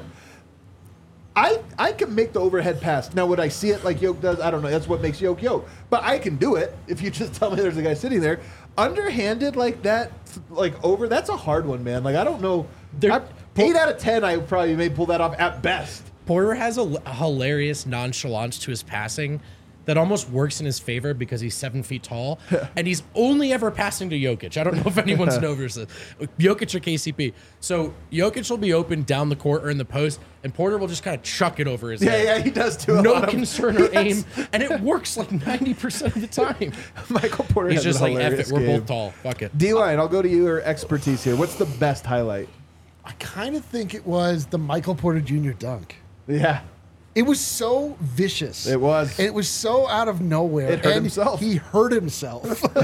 S1: I can make the overhead pass. Now, would I see it like Yoke does? I don't know. That's what makes Yoke Yoke. But I can do it if you just tell me there's a guy sitting there. Underhanded like that, like over, that's a hard one, man. Like, I don't know. 8 out of 10, I probably may pull that off at best.
S2: Porter has a hilarious nonchalance to his passing that almost works in his favor because he's 7 feet tall, and he's only ever passing to Jokic. I don't know if anyone's noticed this. Jokic or KCP. So Jokic will be open down the court or in the post, and Porter will just kind of chuck it over his head.
S1: Yeah, he does too.
S2: No concern or aim, and it works like 90% of the time.
S1: Michael Porter
S2: He's
S1: has
S2: just
S1: a
S2: like, F
S1: hilarious
S2: it, we're
S1: game.
S2: both tall. Fuck it.
S1: D-Line, I'll go to your expertise here. What's the best highlight?
S3: I kind of think it was the Michael Porter Jr. dunk.
S1: Yeah.
S3: It was so vicious.
S1: It was.
S3: And it was so out of nowhere.
S1: It hurt
S3: and
S1: himself.
S3: He hurt himself.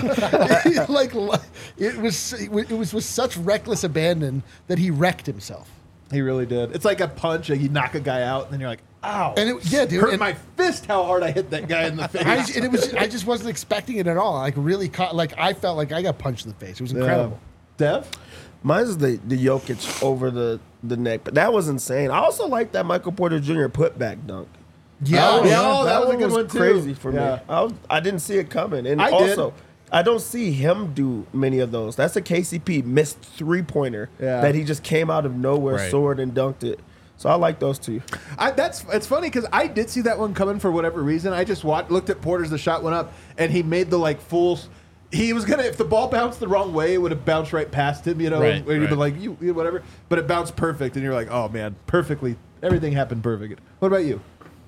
S3: It was with such reckless abandon that he wrecked himself.
S1: He really did. It's like a punch, like you knock a guy out, and then you're like, ow.
S3: And dude,
S1: hurt
S3: and
S1: my fist how hard I hit that guy in the face.
S3: I just wasn't expecting it at all. Like really caught. Like I felt like I got punched in the face. It was incredible.
S1: Dev?
S4: Mine's the Jokic over the neck, but that was insane. I also like that Michael Porter Jr. putback dunk.
S3: Yeah,
S1: that was a
S4: one
S1: good one, too.
S4: crazy for
S1: Yeah.
S4: me. I didn't see it coming, and
S1: I
S4: also
S1: did.
S4: I don't see him do many of those. That's a KCP missed 3-pointer that he just came out of nowhere,
S2: Right.
S4: soared and dunked it. So I like those two.
S1: It's funny because I did see that one coming for whatever reason. I just looked at Porter's, the shot went up, and he made the full. He was gonna, if the ball bounced the wrong way, it would have bounced right past him,
S2: Right,
S1: where you'd be
S2: right.
S1: like, you whatever. But it bounced perfect, and you're like, oh man, perfectly. Everything happened perfect. What about you?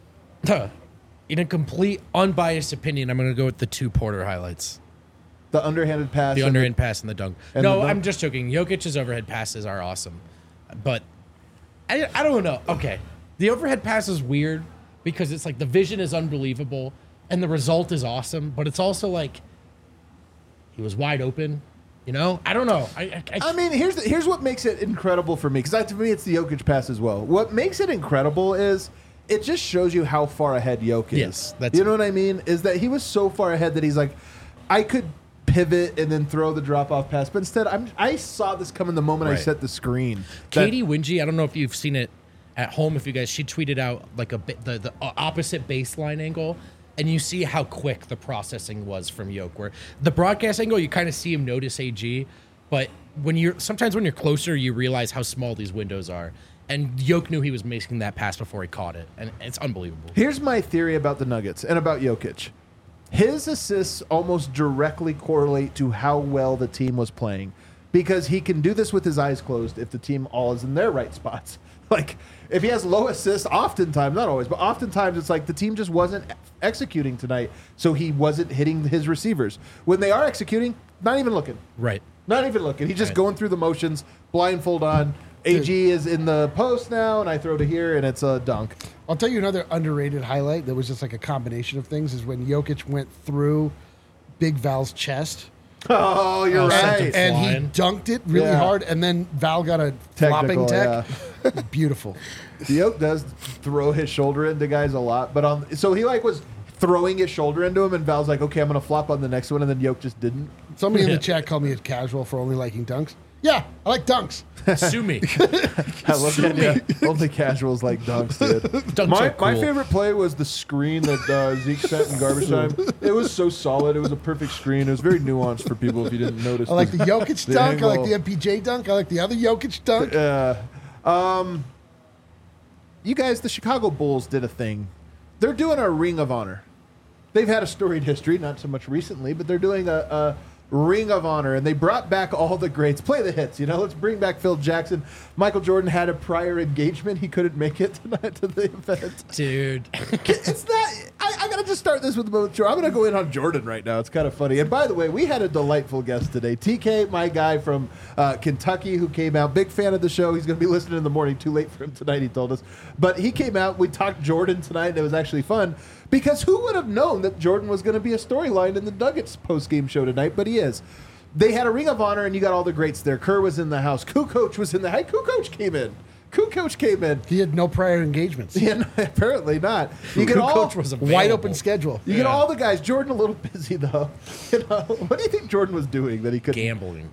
S2: In a complete unbiased opinion, I'm going to go with the 2 Porter highlights.
S1: The underhanded pass.
S2: The
S1: and
S2: underhand pass and the dunk.
S1: and
S2: No,
S1: the dunk?
S2: I'm just joking. Jokic's overhead passes are awesome. But I don't know. Okay. The overhead pass is weird because it's like the vision is unbelievable and the result is awesome, but it's also like he was wide open. You know? I don't know.
S1: I mean, here's what makes it incredible for me, because to me it's the Jokic pass as well. What makes it incredible is it just shows you how far ahead Jokic is.
S2: Yes, that's
S1: you know what I mean? Is that he was so far ahead that he's like, I could pivot and then throw the drop off pass, but instead I saw this coming the moment I
S2: Right.
S1: set the screen.
S2: Katie Wingy, I don't know if you've seen it at home. If you guys, she tweeted out like the opposite baseline angle, and you see how quick the processing was from Yoke. Where the broadcast angle, you kind of see him notice AG, but sometimes when you're closer, you realize how small these windows are. And Yoke knew he was making that pass before he caught it, and it's unbelievable.
S1: Here's my theory about the Nuggets and about Jokic. His assists almost directly correlate to how well the team was playing, because he can do this with his eyes closed if the team all is in their right spots. Like, if he has low assists, oftentimes, not always, but oftentimes it's like the team just wasn't executing tonight, so he wasn't hitting his receivers. When they are executing, not even looking.
S2: Right.
S1: Not even looking. He's just
S2: Right.
S1: going through the motions, blindfold on, AG is in the post now, and I throw to here, and it's a dunk.
S3: I'll tell you another underrated highlight that was just like a combination of things is when Jokic went through Big Val's chest.
S1: Oh, you're
S2: sent him
S1: right.
S3: And he
S2: Flying.
S3: dunked it really
S1: Yeah.
S3: hard, and then Val got a flopping tech. Beautiful.
S1: Yoke does throw his shoulder into guys a lot, but so he like was throwing his shoulder into him, and Val's like, okay, I'm gonna flop on the next one, and then Yoke just didn't.
S3: Somebody in the chat called me a casual for only liking dunks. Yeah, I like dunks.
S2: Sue me.
S1: I love the idea. Only casuals like dunks, dude.
S2: Dunks
S1: My
S2: are cool.
S1: favorite play was the screen that Zeke sent in garbage time. It was so solid. It was a perfect screen. It was very nuanced for people if you didn't notice.
S3: I like the Jokic dunk. I like
S1: angle.
S3: the MPJ dunk. I like the other Jokic dunk.
S1: You guys, the Chicago Bulls did a thing. They're doing a Ring of Honor. They've had a storied history, not so much recently, but they're doing a Ring of Honor, and they brought back all the greats. Play the hits, let's bring back Phil Jackson. Michael Jordan had a prior engagement. He couldn't make it tonight to the event.
S2: Dude.
S1: It's not. I gotta just start this with Jordan. I'm gonna go in on Jordan right now. It's kind of funny. And by the way, we had a delightful guest today. TK, my guy from Kentucky, who came out. Big fan of the show. He's gonna be listening in the morning. Too late for him tonight, he told us. But he came out. We talked Jordan tonight, and it was actually fun because who would have known that Jordan was going to be a storyline in the Nuggets post-game show tonight? But he is. They had a Ring of Honor, and you got all the greats there. Kerr was in the house. Kukoc was in the house. Kukoc came in.
S3: He had no prior engagements.
S1: Yeah, no, apparently not. You get all
S2: Coach was
S3: Wide
S2: available.
S3: open schedule.
S1: you get all the guys. Jordan a little busy though. What do you think Jordan was doing that he couldn't?
S2: Gambling.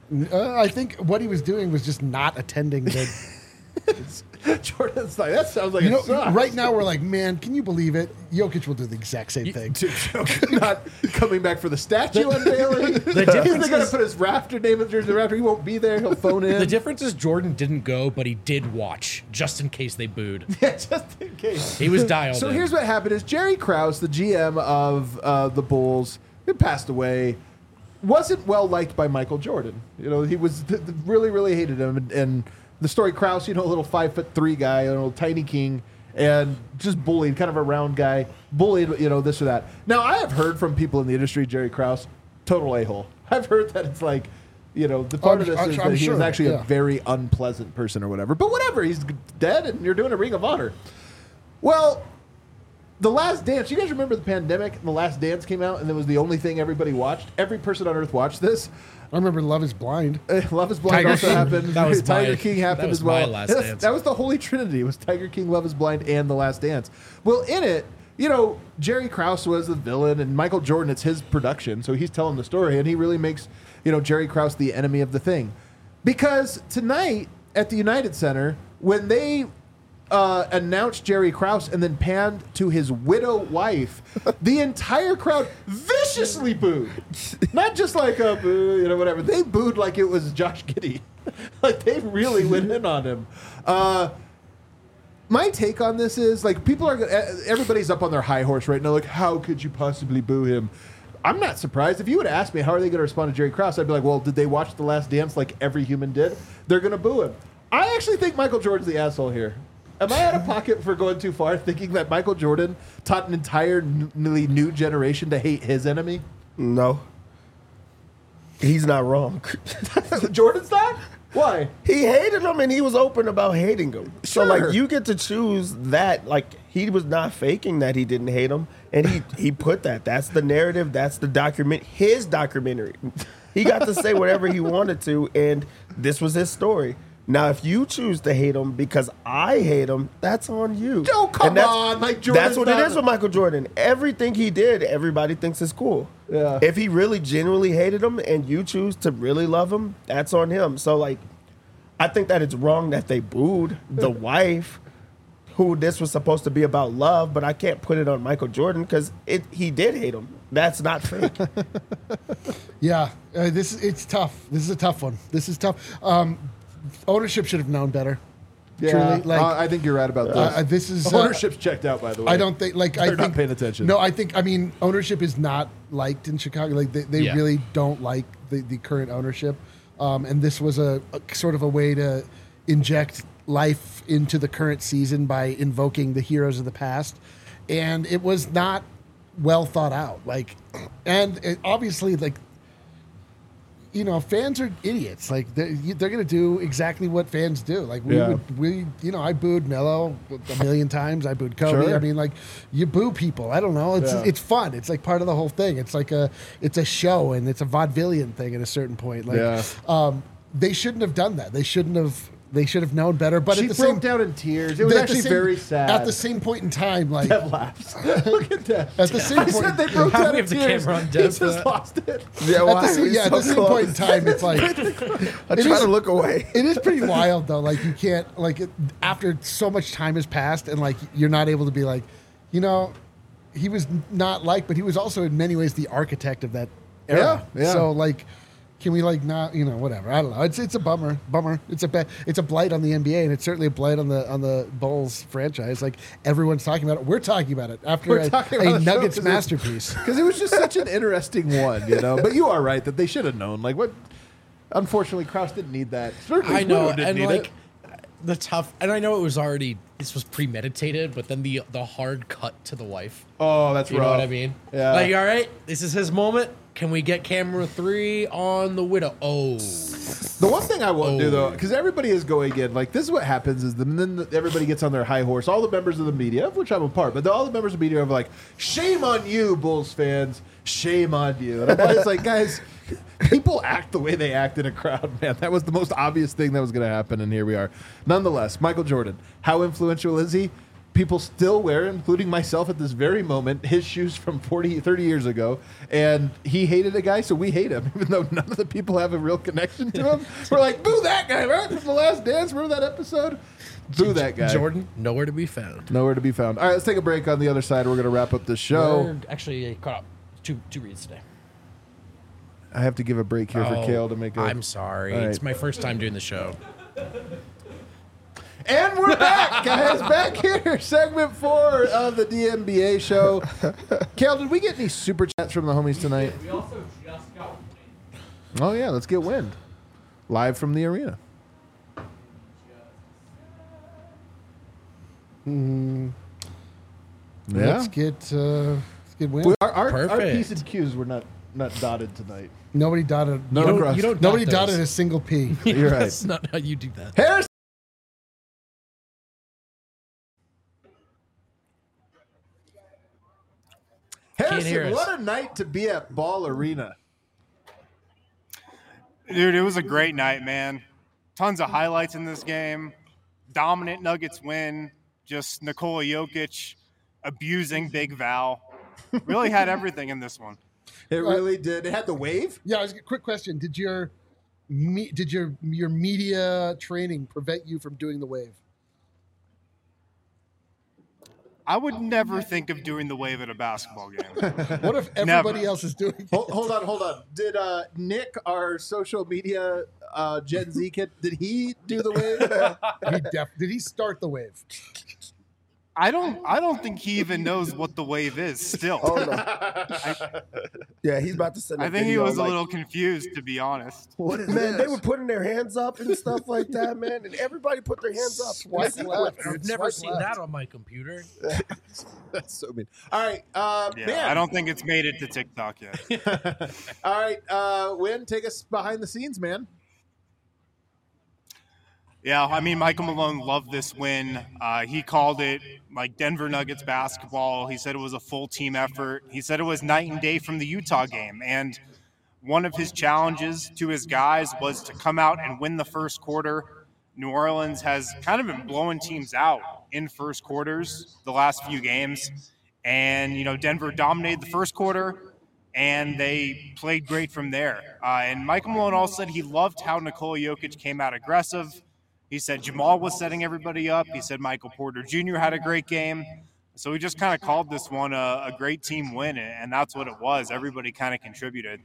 S3: I think what he was doing was just not attending the.
S1: Jordan's like, that sounds like it sucks.
S3: Right now we're like, man, can you believe it? Jokic will do the exact same thing.
S1: Not coming back for the statue unveiling. He's
S2: difference
S1: going to
S2: is-
S1: put his rafter name in the rafter. He won't be there. He'll phone in.
S2: The difference is Jordan didn't go, but he did watch, just in case they booed.
S1: Yeah, just in case.
S2: He was dialed
S1: So
S2: in.
S1: here's what happened: is Jerry Krause, the GM of the Bulls, who passed away, wasn't well liked by Michael Jordan. He was really, really hated him. And the story, Krause, a little 5'3" guy, a little tiny king, and just bullied, kind of a round guy, bullied, this or that. Now I have heard from people in the industry, Jerry Krause, total a-hole. I've heard that it's like. The part of this is that he was actually a very unpleasant person or whatever. But whatever, he's dead, and you're doing a Ring of Honor. Well, The Last Dance. You guys remember the pandemic and The Last Dance came out, and it was the only thing everybody watched? Every person on Earth watched this.
S3: I remember Love is Blind.
S1: Love is Blind
S3: Tiger
S1: also
S3: King.
S1: happened.
S2: That was
S1: Tiger
S2: my-
S1: King
S2: that
S1: happened
S2: was
S1: as well.
S2: my Last Dance.
S1: That was the Holy Trinity. It was Tiger King, Love is Blind, and The Last Dance. Well, in it, Jerry Krause was the villain, and Michael Jordan, it's his production, so he's telling the story, and he really makes, Jerry Krause the enemy of the thing. Because tonight at the United Center, when they announced Jerry Krause and then panned to his widow wife, the entire crowd viciously booed. Not just like a boo, whatever. They booed like it was Josh Giddey. Like they really went in on him. My take on this is everybody's up on their high horse right now. Like, how could you possibly boo him? I'm not surprised. If you would ask me, how are they going to respond to Jerry Krause? I'd be like, well, did they watch The Last Dance like every human did? They're going to boo him. I actually think Michael Jordan's the asshole here. Am I out of pocket for going too far, thinking that Michael Jordan taught an entirely new generation to hate his enemy?
S4: No. He's not wrong.
S1: Jordan's not? Why?
S4: He hated him and he was open about hating him. So
S1: Sure.
S4: you get to choose that. He was not faking that he didn't hate him, and he put that. That's the narrative. That's the document. His documentary. He got to say whatever he wanted to, and this was his story. Now, if you choose to hate him because I hate him, that's on you.
S1: Oh, come
S4: And that's-
S1: on, like Jordan's
S4: That's what
S1: not-
S4: it is with Michael Jordan. Everything he did, everybody thinks is cool.
S1: Yeah.
S4: If he really genuinely hated him and you choose to really love him, that's on him. So, I think that it's wrong that they booed the wife, who this was supposed to be about love, but I can't put it on Michael Jordan because he did hate him. That's not fake.
S3: Yeah, it's tough. This is a tough one. This is tough. Ownership should have known better.
S1: Yeah,
S3: Truly,
S1: I think you're right about this.
S3: This is
S1: Ownership's checked out, by the way.
S3: I don't think
S1: They're not paying attention.
S3: No, I mean ownership is not liked in Chicago. Like they
S2: Yeah.
S3: really don't like the current ownership, and this was a sort of a way to inject life into the current season by invoking the heroes of the past, and it was not well thought out. Obviously fans are idiots. Like they're going to do exactly what fans do. Like I booed Melo a million times. I booed Kobe.
S1: Sure.
S3: I mean, like you boo people. I don't know. It's fun. It's like part of the whole thing. It's like it's a show and it's a vaudevillian thing at a certain point. Like, they shouldn't have done that. They should have known better. But
S1: She
S3: at the
S1: broke
S3: same
S1: down in tears. It was actually very sad.
S3: At the same point in time, like
S1: Dev laughs. Look at that.
S3: at the same
S1: I
S3: point,
S1: said they broke
S2: How
S1: down
S2: we
S1: in
S2: have the
S1: tears.
S2: camera on
S1: He
S2: Dev
S1: just
S2: for
S1: lost it.
S4: Yeah,
S3: at the same point in time, it's like
S4: I try to look away.
S3: it is pretty wild though. Like you can't after so much time has passed and like you're not able to be like, he was not like, but he was also in many ways the architect of that era.
S1: Yeah.
S3: So like, can we like not, whatever? I don't know. It's a bummer. It's a blight on the NBA, and it's certainly a blight on the Bulls franchise. Like everyone's talking about it. We're talking about it after
S1: We're talking about
S3: a
S1: the show
S3: Nuggets
S1: 'cause
S3: masterpiece.
S1: Because it was just such an interesting one, But you are right that they should have known. Like what? Unfortunately, Krause didn't need that. Certainly
S2: I know,
S1: Pluto didn't
S2: and
S1: need
S2: like
S1: it.
S2: and I know it was already this was premeditated, but then the hard cut to the wife.
S1: Oh, that's
S2: You
S1: rough.
S2: know what I mean?
S1: Yeah.
S2: Like, all right, this is his moment. Can we get camera 3 on the widow? Oh,
S1: The one thing I won't do though, because everybody is going in, like this is what happens is then everybody gets on their high horse. All the members of the media, of which I'm a part, but all the members of the media are like, "Shame on you, Bulls fans! Shame on you!" And I'm always like, guys, people act the way they act in a crowd, man. That was the most obvious thing that was going to happen, and here we are. Nonetheless, Michael Jordan, how influential is he? People still wear, including myself at this very moment, his shoes from 30 years ago. And he hated a guy, so we hate him, even though none of the people have a real connection to him. We're like, boo that guy, right? From The Last Dance. Remember that episode? Boo that guy.
S2: Jordan, nowhere to be found.
S1: Nowhere to be found. All right, let's take a break. On the other side, we're going to wrap up the show.
S2: We're actually caught up. Two reads today.
S1: I have to give a break here for Kale to make a...
S2: I'm sorry.
S1: All right.
S2: It's my first time doing the show.
S1: And we're back, guys. Back here. Segment 4 of the DNBA show. Kale, did we get any super chats from the homies tonight?
S5: We also just got wind.
S1: Oh, yeah. Let's get wind. Live from the arena.
S3: Let's get win.
S1: Our
S2: Perfect.
S1: P's and Q's were not dotted tonight.
S3: Nobody dotted.
S1: No cross.
S2: You don't
S3: Nobody
S2: dot
S3: dotted
S2: those.
S3: a single P.
S1: You're right.
S2: That's not how you do that.
S1: Harrison.
S2: hear
S1: Harrison,
S2: us.
S1: what a night to be at Ball Arena.
S6: Dude, it was a great night, man. Tons of highlights in this game. Dominant Nuggets win. Just Nikola Jokic abusing Big Val. Really had everything in this one.
S1: It really did. It had the wave.
S3: Yeah, quick question. Did your media training prevent you from doing the wave?
S6: I would never think of doing the wave at a basketball game.
S3: What if everybody else is doing it?
S1: Hold on. Did Nick, our social media Gen Z kid, did he do the wave?
S3: Did he start the wave?
S6: I don't think he even knows what the wave is still.
S4: Oh, no. Yeah, he's about to send a
S6: I think he
S4: video,
S6: was a
S4: like,
S6: little confused, to be honest.
S1: What is
S4: Man,
S1: this?
S4: they were putting their hands up and stuff like that, man. And everybody put their hands up.
S3: Swipe left.
S2: I've never
S3: Swipe
S2: seen
S3: left.
S2: that on my computer.
S1: That's so mean. All right,
S6: Yeah,
S1: man.
S6: I don't think it's made it to TikTok yet.
S1: All right, Win, take us behind the scenes, man.
S6: Yeah, I mean, Michael Malone loved this win. He called it like Denver Nuggets basketball. He said it was a full team effort. He said it was night and day from the Utah game. And one of his challenges to his guys was to come out and win the first quarter. New Orleans has kind of been blowing teams out in first quarters the last few games. And, Denver dominated the first quarter, and they played great from there. And Michael Malone also said he loved how Nikola Jokic came out aggressive. He said Jamal was setting everybody up. He said Michael Porter Jr. had a great game. So we just kind of called this one a great team win, and that's what it was. Everybody kind of contributed.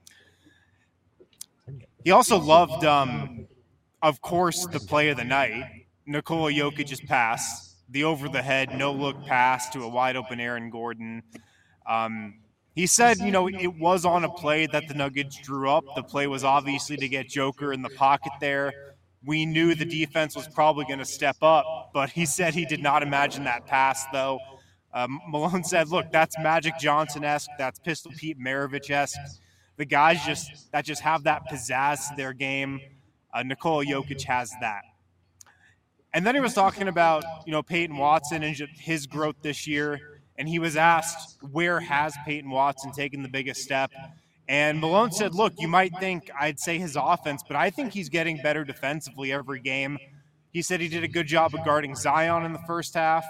S6: He also loved, of course, the play of the night, Nikola Jokic's pass, the over-the-head, no-look pass to a wide-open Aaron Gordon. He said, it was on a play that the Nuggets drew up. The play was obviously to get Joker in the pocket there. We knew the defense was probably going to step up, but he said he did not imagine that pass, though. Malone said, look, that's Magic Johnson-esque. That's Pistol Pete Maravich-esque. the guys that just have that pizzazz to their game. Nikola Jokic has that. And then he was talking about, Peyton Watson and his growth this year. And he was asked, where has Peyton Watson taken the biggest step? And Malone said, look, you might think I'd say his offense, but I think he's getting better defensively every game. He said he did a good job of guarding Zion in the first half.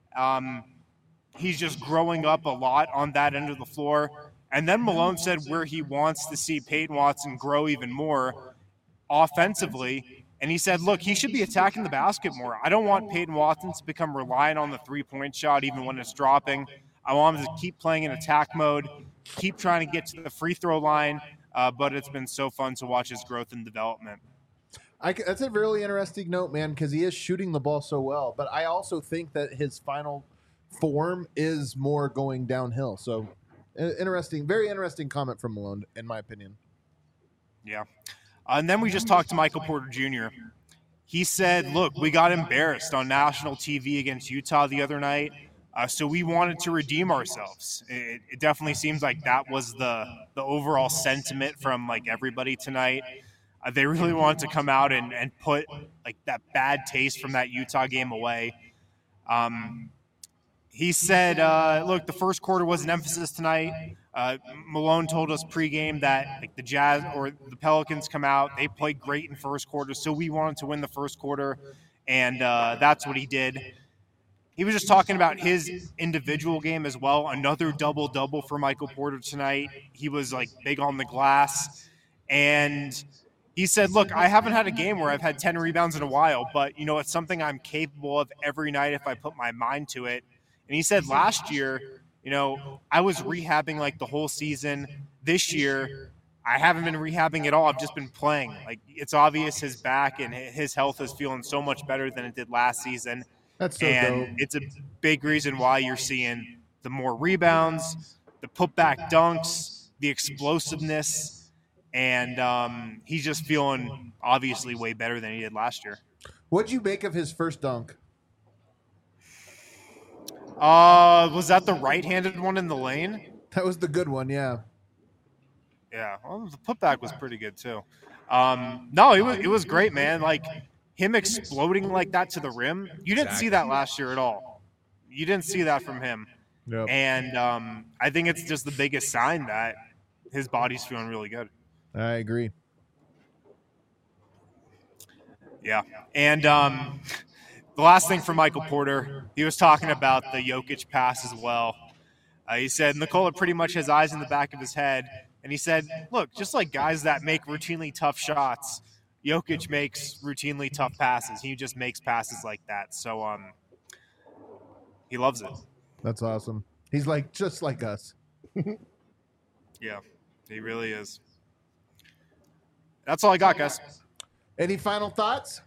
S6: He's just growing up a lot on that end of the floor. And then Malone said where he wants to see Peyton Watson grow even more offensively. And he said, look, he should be attacking the basket more. I don't want Peyton Watson to become reliant on the three-point shot even when it's dropping. I want him to keep playing in attack mode, keep trying to get to the free throw line, but it's been so fun to watch his growth and development.
S1: That's a really interesting note, man, because he is shooting the ball so well. But I also think that his final form is more going downhill. So very interesting comment from Malone, in my opinion.
S6: Yeah. And then we just talked to Michael Porter Jr. He said, look, we got embarrassed on national TV against Utah the other night, so we wanted to redeem ourselves. It definitely seems like that was the overall sentiment from, everybody tonight. They really wanted to come out and put, that bad taste from that Utah game away. He said, look, the first quarter was an emphasis tonight. Malone told us pregame that the Jazz or the Pelicans come out. They played great in first quarter, so we wanted to win the first quarter, and that's what he did. He was just talking about his individual game as well. Another double-double for Michael Porter tonight. He was, big on the glass. And he said, look, I haven't had a game where I've had 10 rebounds in a while, but, it's something I'm capable of every night if I put my mind to it. And he said last year, I was rehabbing the whole season. This year, I haven't been rehabbing at all. I've just been playing. It's obvious his back and his health is feeling so much better than it did last season.
S1: That's so dope.
S6: It's a big reason why you're seeing the more rebounds, the putback dunks, the explosiveness, and he's just feeling obviously way better than he did last year.
S1: What'd you make of his first dunk?
S6: Was that the right-handed one in the lane?
S1: That was the good one, yeah.
S6: Yeah, well, the putback was pretty good too. No, it was great, man. Him exploding like that to the rim, you didn't see that last year at all. You didn't see that from him.
S1: Yep.
S6: And I think it's just the biggest sign that his body's feeling really good.
S1: I agree.
S6: Yeah, and the last thing for Michael Porter, he was talking about the Jokic pass as well. He said Nikola pretty much has eyes in the back of his head. And he said, look, just like guys that make routinely tough shots, Jokic makes routinely tough passes. He just makes passes like that. So he loves it.
S1: That's awesome. He's just like us.
S6: Yeah, he really is. That's all I got, guys.
S1: Any final thoughts?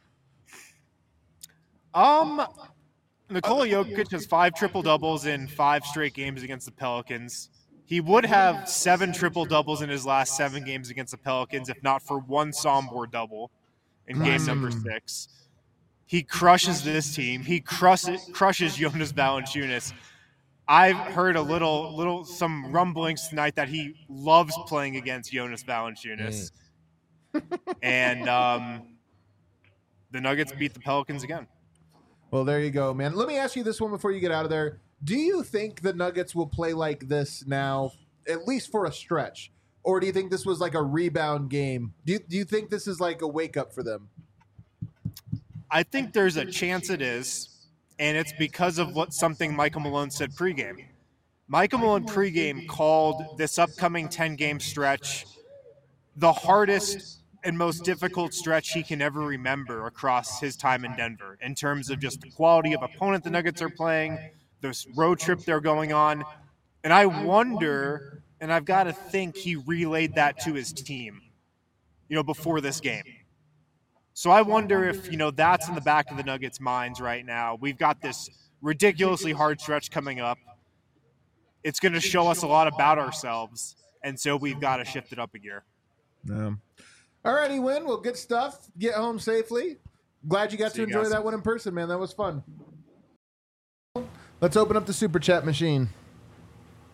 S6: Nikola Jokic has 5 triple-doubles in 5 straight games against the Pelicans. He would have 7 triple-doubles in his last 7 games against the Pelicans if not for one Sombor double in game number 6. He crushes this team. He crushes Jonas Valanciunas. I've heard some rumblings tonight that he loves playing against Jonas Valanciunas. And the Nuggets beat the Pelicans again.
S1: Well, there you go, man. Let me ask you this one before you get out of there. Do you think the Nuggets will play like this now, at least for a stretch? Or do you think this was a rebound game? Do you think this is a wake-up for them?
S6: I think there's a chance it is, and it's because of something Michael Malone said pregame. Michael Malone pregame called this upcoming 10-game stretch the hardest and most difficult stretch he can ever remember across his time in Denver in terms of just the quality of opponent the Nuggets are playing, this road trip they're going on. And I wonder, and I've got to think he relayed that to his team, before this game. So I wonder if, that's in the back of the Nuggets' minds right now. We've got this ridiculously hard stretch coming up. It's going to show us a lot about ourselves, and so we've got to shift it up a gear.
S1: All righty, Win. Well, good stuff. Get home safely. Glad you got to enjoy that one in person, man. That was fun. Let's open up the Super Chat machine.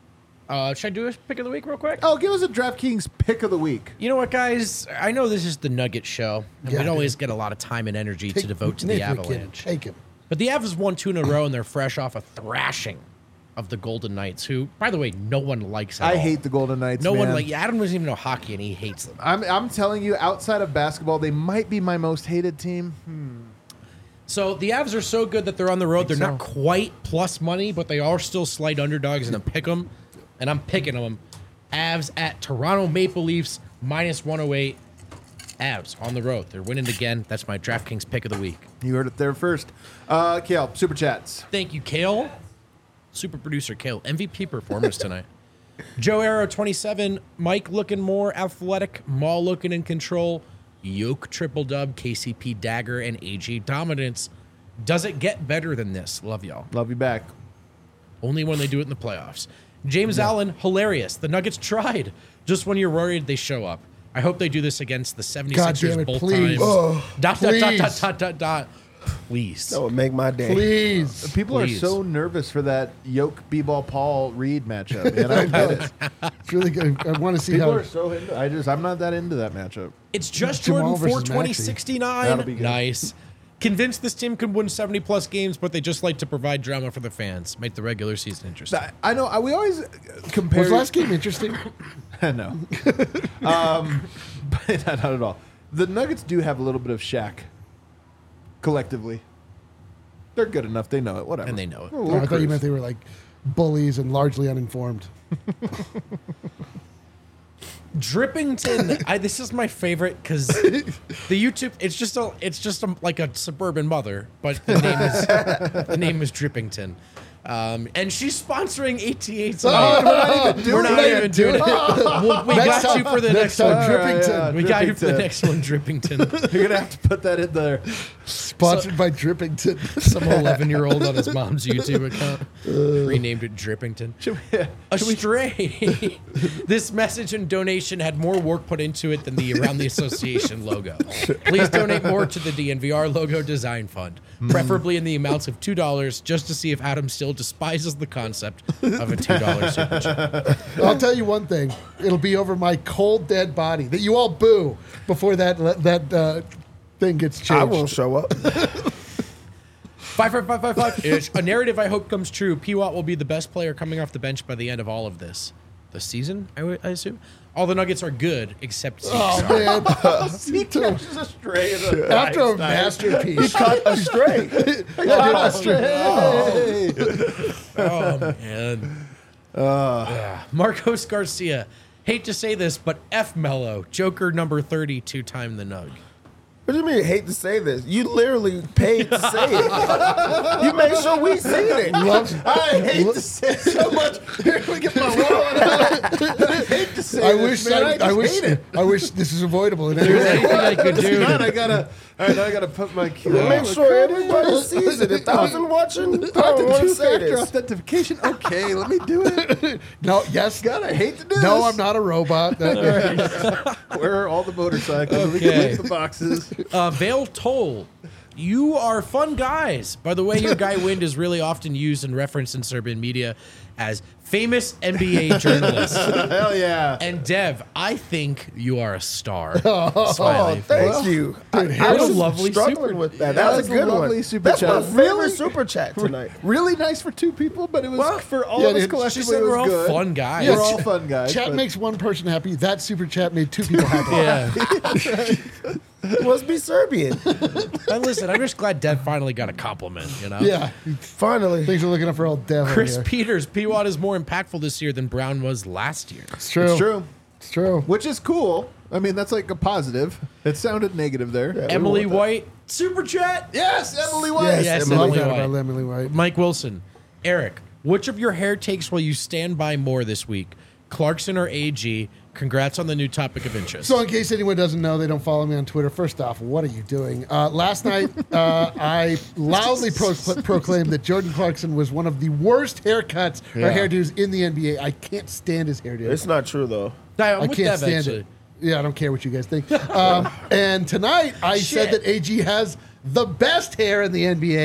S2: Should I do a pick of the week real quick?
S1: Oh, give us a DraftKings pick of the week.
S2: You know what, guys? I know this is the Nugget show, and
S3: Yeah,
S2: we don't always
S3: dude.
S2: get a lot of time and energy to devote to the
S3: Nick McKinnon,
S2: Avalanche.
S3: Take him.
S2: But the Avs won 2 in a row, and they're fresh off a thrashing of the Golden Knights, who, by the way, no one likes at
S1: I
S2: all.
S1: hate the Golden Knights.
S2: No one
S1: man.
S2: like Adam doesn't even know hockey, and he hates them.
S1: I'm telling you, outside of basketball, they might be my most hated team.
S2: So the Avs are so good that they're on the road. They're not quite plus money, but they are still slight underdogs, and I'm pick them, and I'm picking them. Avs at Toronto Maple Leafs -108. Avs on the road. They're winning again. That's my DraftKings pick of the week.
S1: You heard it there first. Kale, super chats.
S2: Thank you, Kale. Super producer Kale. MVP performance tonight. Joe Arrow 27. Mike looking more athletic. Maul looking in control. Yoke triple dub. KCP dagger and AG dominance. Does it get better than this? Love y'all.
S1: Love you back.
S2: Only when they do it in the playoffs. James Allen, hilarious. The Nuggets tried. Just when you're worried, they show up. I hope they do this against the 76ers
S3: God damn it,
S2: both
S3: please.
S2: times.
S3: Oh, please.
S2: Please.
S4: That would make my day.
S3: Please.
S1: People
S2: Please.
S1: are so nervous for that Yoke B-ball Paul Reed matchup. Man, I don't get it.
S3: It's really good. I want to see
S1: People
S3: how.
S1: are so into. I'm not that into that matchup.
S2: It's just
S3: Jamal
S2: Jordan
S3: versus
S2: 420
S3: Maxey.
S2: 69.
S1: That'll be good.
S2: Nice. Convinced this team can win 70 plus games, but they just like to provide drama for the fans. Make the regular season interesting.
S1: I know. We always compare.
S3: Was last game interesting?
S1: No. But not at all. The Nuggets do have a little bit of Shaq. Collectively, they're good enough. They know it. Whatever.
S2: And they know it.
S1: We'll
S3: Oh, I thought you
S1: cruise.
S3: meant they were like bullies and largely uninformed.
S2: Drippington. This is my favorite because the YouTube. It's just like a suburban mother, but the name is Drippington. And she's sponsoring ATH tonight. We're not even doing it. We
S3: Next
S2: got you
S3: time-
S2: for the next
S3: time,
S2: one.
S3: Drippington.
S1: Yeah,
S2: We got you for the
S1: Drippington.
S2: next one, Drippington.
S1: You're gonna have to put that in there.
S3: Sponsored by Drippington.
S2: Some 11-year-old on his mom's YouTube account renamed it Drippington. Astray. This message and donation had more work put into it than the Around the Association logo. Please donate more to the DNVR logo design fund, preferably in the amounts of $2, just to see if Adam still despises the concept of a $2 super chat.
S3: I'll tell you one thing. It'll be over my cold, dead body that you all boo before that thing gets changed.
S4: I won't show up.
S2: 55555 ish. A narrative I hope comes true. P-Watt will be the best player coming off the bench by the end of all of this. The season, I assume? All the Nuggets are good, except
S3: Oh, man.
S1: He catches a stray.
S3: After a masterpiece.
S4: Cut astray.
S2: Oh, man. Marcos Garcia. Hate to say this, but F Mello. Joker number 30, 2-time the Nug.
S4: What do you mean? Hate to say this. You literally paid to say it. You made sure we seen it.
S1: I hate to say it so much. Here, let me get my wallet out. I hate to say this, man. I just hate it.
S3: I wish this is avoidable in any
S2: There's
S3: way.
S2: anything I could do.
S1: God, I gotta. All right, now I gotta put my.
S4: Make sure everybody sees it. 1,000 watching. I don't want to say
S1: Two-factor
S4: this.
S1: authentication. Okay, let me do it.
S3: No, yes.
S1: God, I hate to do this.
S3: No, I'm not a robot.
S1: Where are all the motorcycles? We can
S2: Okay.
S1: leave the boxes.
S2: Vale Toll. You are fun guys. By the way, your guy Wind is really often used and referenced in Serbian media as famous NBA journalist.
S1: Hell yeah.
S2: And Dev, I think you are a star.
S4: Oh,
S2: Smiley face.
S4: thank you. I
S2: what a
S4: was
S2: lovely
S4: struggling
S2: super-
S4: with that.
S1: That
S4: That
S1: was
S4: was a
S1: a
S4: good
S1: lovely
S4: one.
S1: super
S4: That's my
S1: chat.
S4: favorite
S1: Really?
S4: super chat tonight.
S1: Really nice for two people, but it was for all
S3: Yeah,
S1: of us
S3: dude.
S1: collectively.
S2: She said
S1: it was
S2: we're all
S1: good.
S2: fun guys.
S1: We're all fun guys.
S3: Chat
S1: but-
S3: makes one person happy. That super chat made two people happy.
S2: Yeah.
S4: Must be Serbian.
S2: And listen, I'm just glad Dev finally got a compliment, you know?
S3: Yeah.
S4: Finally.
S3: Things are looking up for old Devil
S2: Chris
S3: here.
S2: Peters, P-Watt is more impactful this year than Brown was last year.
S3: It's true.
S1: It's true.
S3: It's true.
S1: Which is cool. I mean, that's like a positive. It sounded negative there.
S2: Emily White, super chat.
S1: Yes, Emily White.
S2: Yes,
S3: I like
S2: Emily
S3: that
S2: White.
S3: about Emily White.
S2: Mike Wilson, Eric, which of your hair takes will you stand by more this week? Clarkson or AG? Congrats on the new topic of interest.
S3: So, in case anyone doesn't know, they don't follow me on Twitter. First off, what are you doing? Last night, I loudly proclaimed that Jordan Clarkson was one of the worst haircuts or hairdos in the NBA. I can't stand his hairdo.
S4: It's not true, though.
S2: I'm
S3: I
S2: with
S3: can't
S2: Dev,
S3: stand
S2: actually.
S3: it. Yeah, I don't care what you guys think. And tonight, I said that AG has the best hair in the NBA.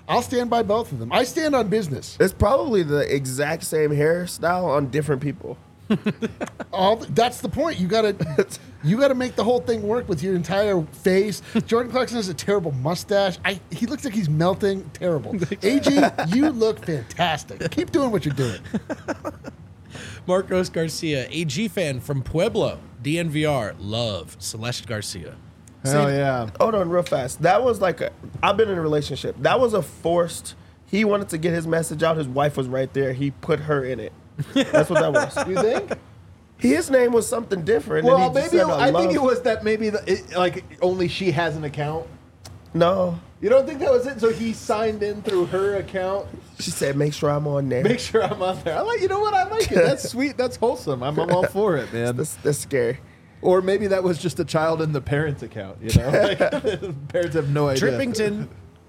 S3: I'll stand by both of them. I stand on business.
S4: It's probably the exact same hairstyle on different people.
S3: That's the point. You gotta make the whole thing work with your entire face. Jordan Clarkson has a terrible mustache. He looks like he's melting. Terrible. AG, you look fantastic. Keep doing what you're doing.
S2: Marcos Garcia, AG fan from Pueblo, DNVR, love Celeste Garcia.
S1: Hell yeah.
S4: Hold on real fast. That was like I've been in a relationship. That was a forced, he wanted to get his message out. His wife was right there. He put her in it. That's what that was.
S1: You think?
S4: His name was something different.
S1: Well,
S4: and he just
S1: maybe
S4: said,
S1: I think
S4: love.
S1: it was that maybe like only she has an account.
S4: No.
S1: You don't think that was it? So he signed in through her account.
S4: She said, make sure I'm on there.
S1: Make sure I'm on there. You know what? I like it. That's sweet. That's wholesome. I'm all for it, man.
S4: That's scary.
S1: Or maybe that was just a child in the parents' account. You know, parents have no idea.
S2: Trippington.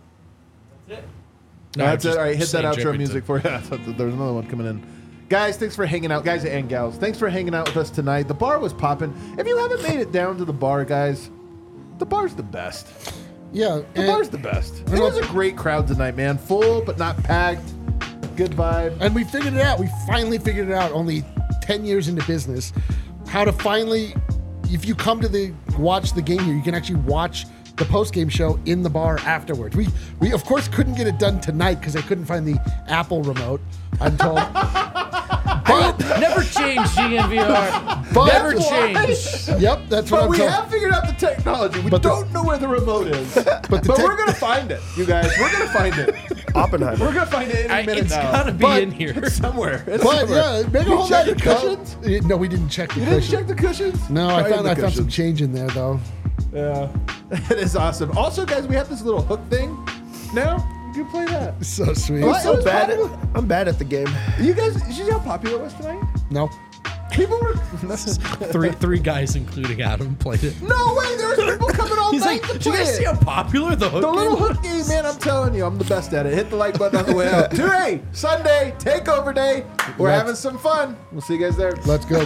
S1: No, that's it. All right, hit that
S2: saying
S1: outro
S2: Drippington.
S1: music for you. There's another one coming in. Guys, thanks for hanging out. Guys and gals, thanks for hanging out with us tonight. The bar was popping. If you haven't made it down to the bar, guys, the bar's the best.
S3: Yeah.
S1: The bar's the best. It was a great crowd tonight, man. Full, but not packed. Good vibe.
S3: And we figured it out. We finally figured it out only 10 years into business. How to finally, if you come to watch the game here, you can actually watch the post-game show in the bar afterwards. We of course couldn't get it done tonight because they couldn't find the Apple remote, I'm told. But
S2: Never change, DNVR.
S3: But-
S2: Never
S1: That's why.
S2: change.
S3: yep, that's what
S1: But
S3: I'm
S1: we
S3: told.
S1: have figured out the technology. We
S3: But the-
S1: don't know where the remote is. But
S3: the
S1: we're going to find it, you guys. We're going to find it.
S4: Oppenheimer.
S1: We're going to find it any minute
S2: It's
S1: now.
S2: gotta be
S3: But-
S2: in here.
S1: It's somewhere. It's
S3: But
S1: somewhere.
S3: yeah, make a
S1: You
S3: whole
S1: check
S3: lot
S1: the
S3: of
S1: cushions?
S3: No, we didn't check the
S1: You didn't
S3: cushions.
S1: check the cushions?
S3: No, I
S1: Probably
S3: found
S1: the
S3: some
S1: cushions.
S3: change in there though.
S1: Yeah. It is awesome. Also, guys, we have this little hook thing now. You can play that.
S3: So sweet.
S1: What?
S4: So
S1: It was
S4: bad
S1: popular.
S4: I'm bad at the game.
S1: You guys, did you see how popular it was tonight?
S3: No.
S1: People were.
S2: Three guys, including Adam, played it.
S1: No way! There was people coming all
S2: He's
S1: night
S2: like,
S1: to
S2: do you
S1: play
S2: guys see
S1: it.
S2: how popular the hook
S1: The little
S2: game
S1: hook game, man, I'm telling you, I'm the best at it. Hit the like button on the way out. Today, Sunday, takeover day. We're
S3: Let's-
S1: having some fun. We'll see you guys there.
S3: Let's go.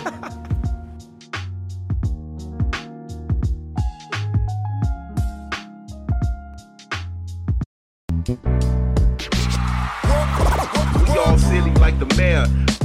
S5: We all silly like the mayor.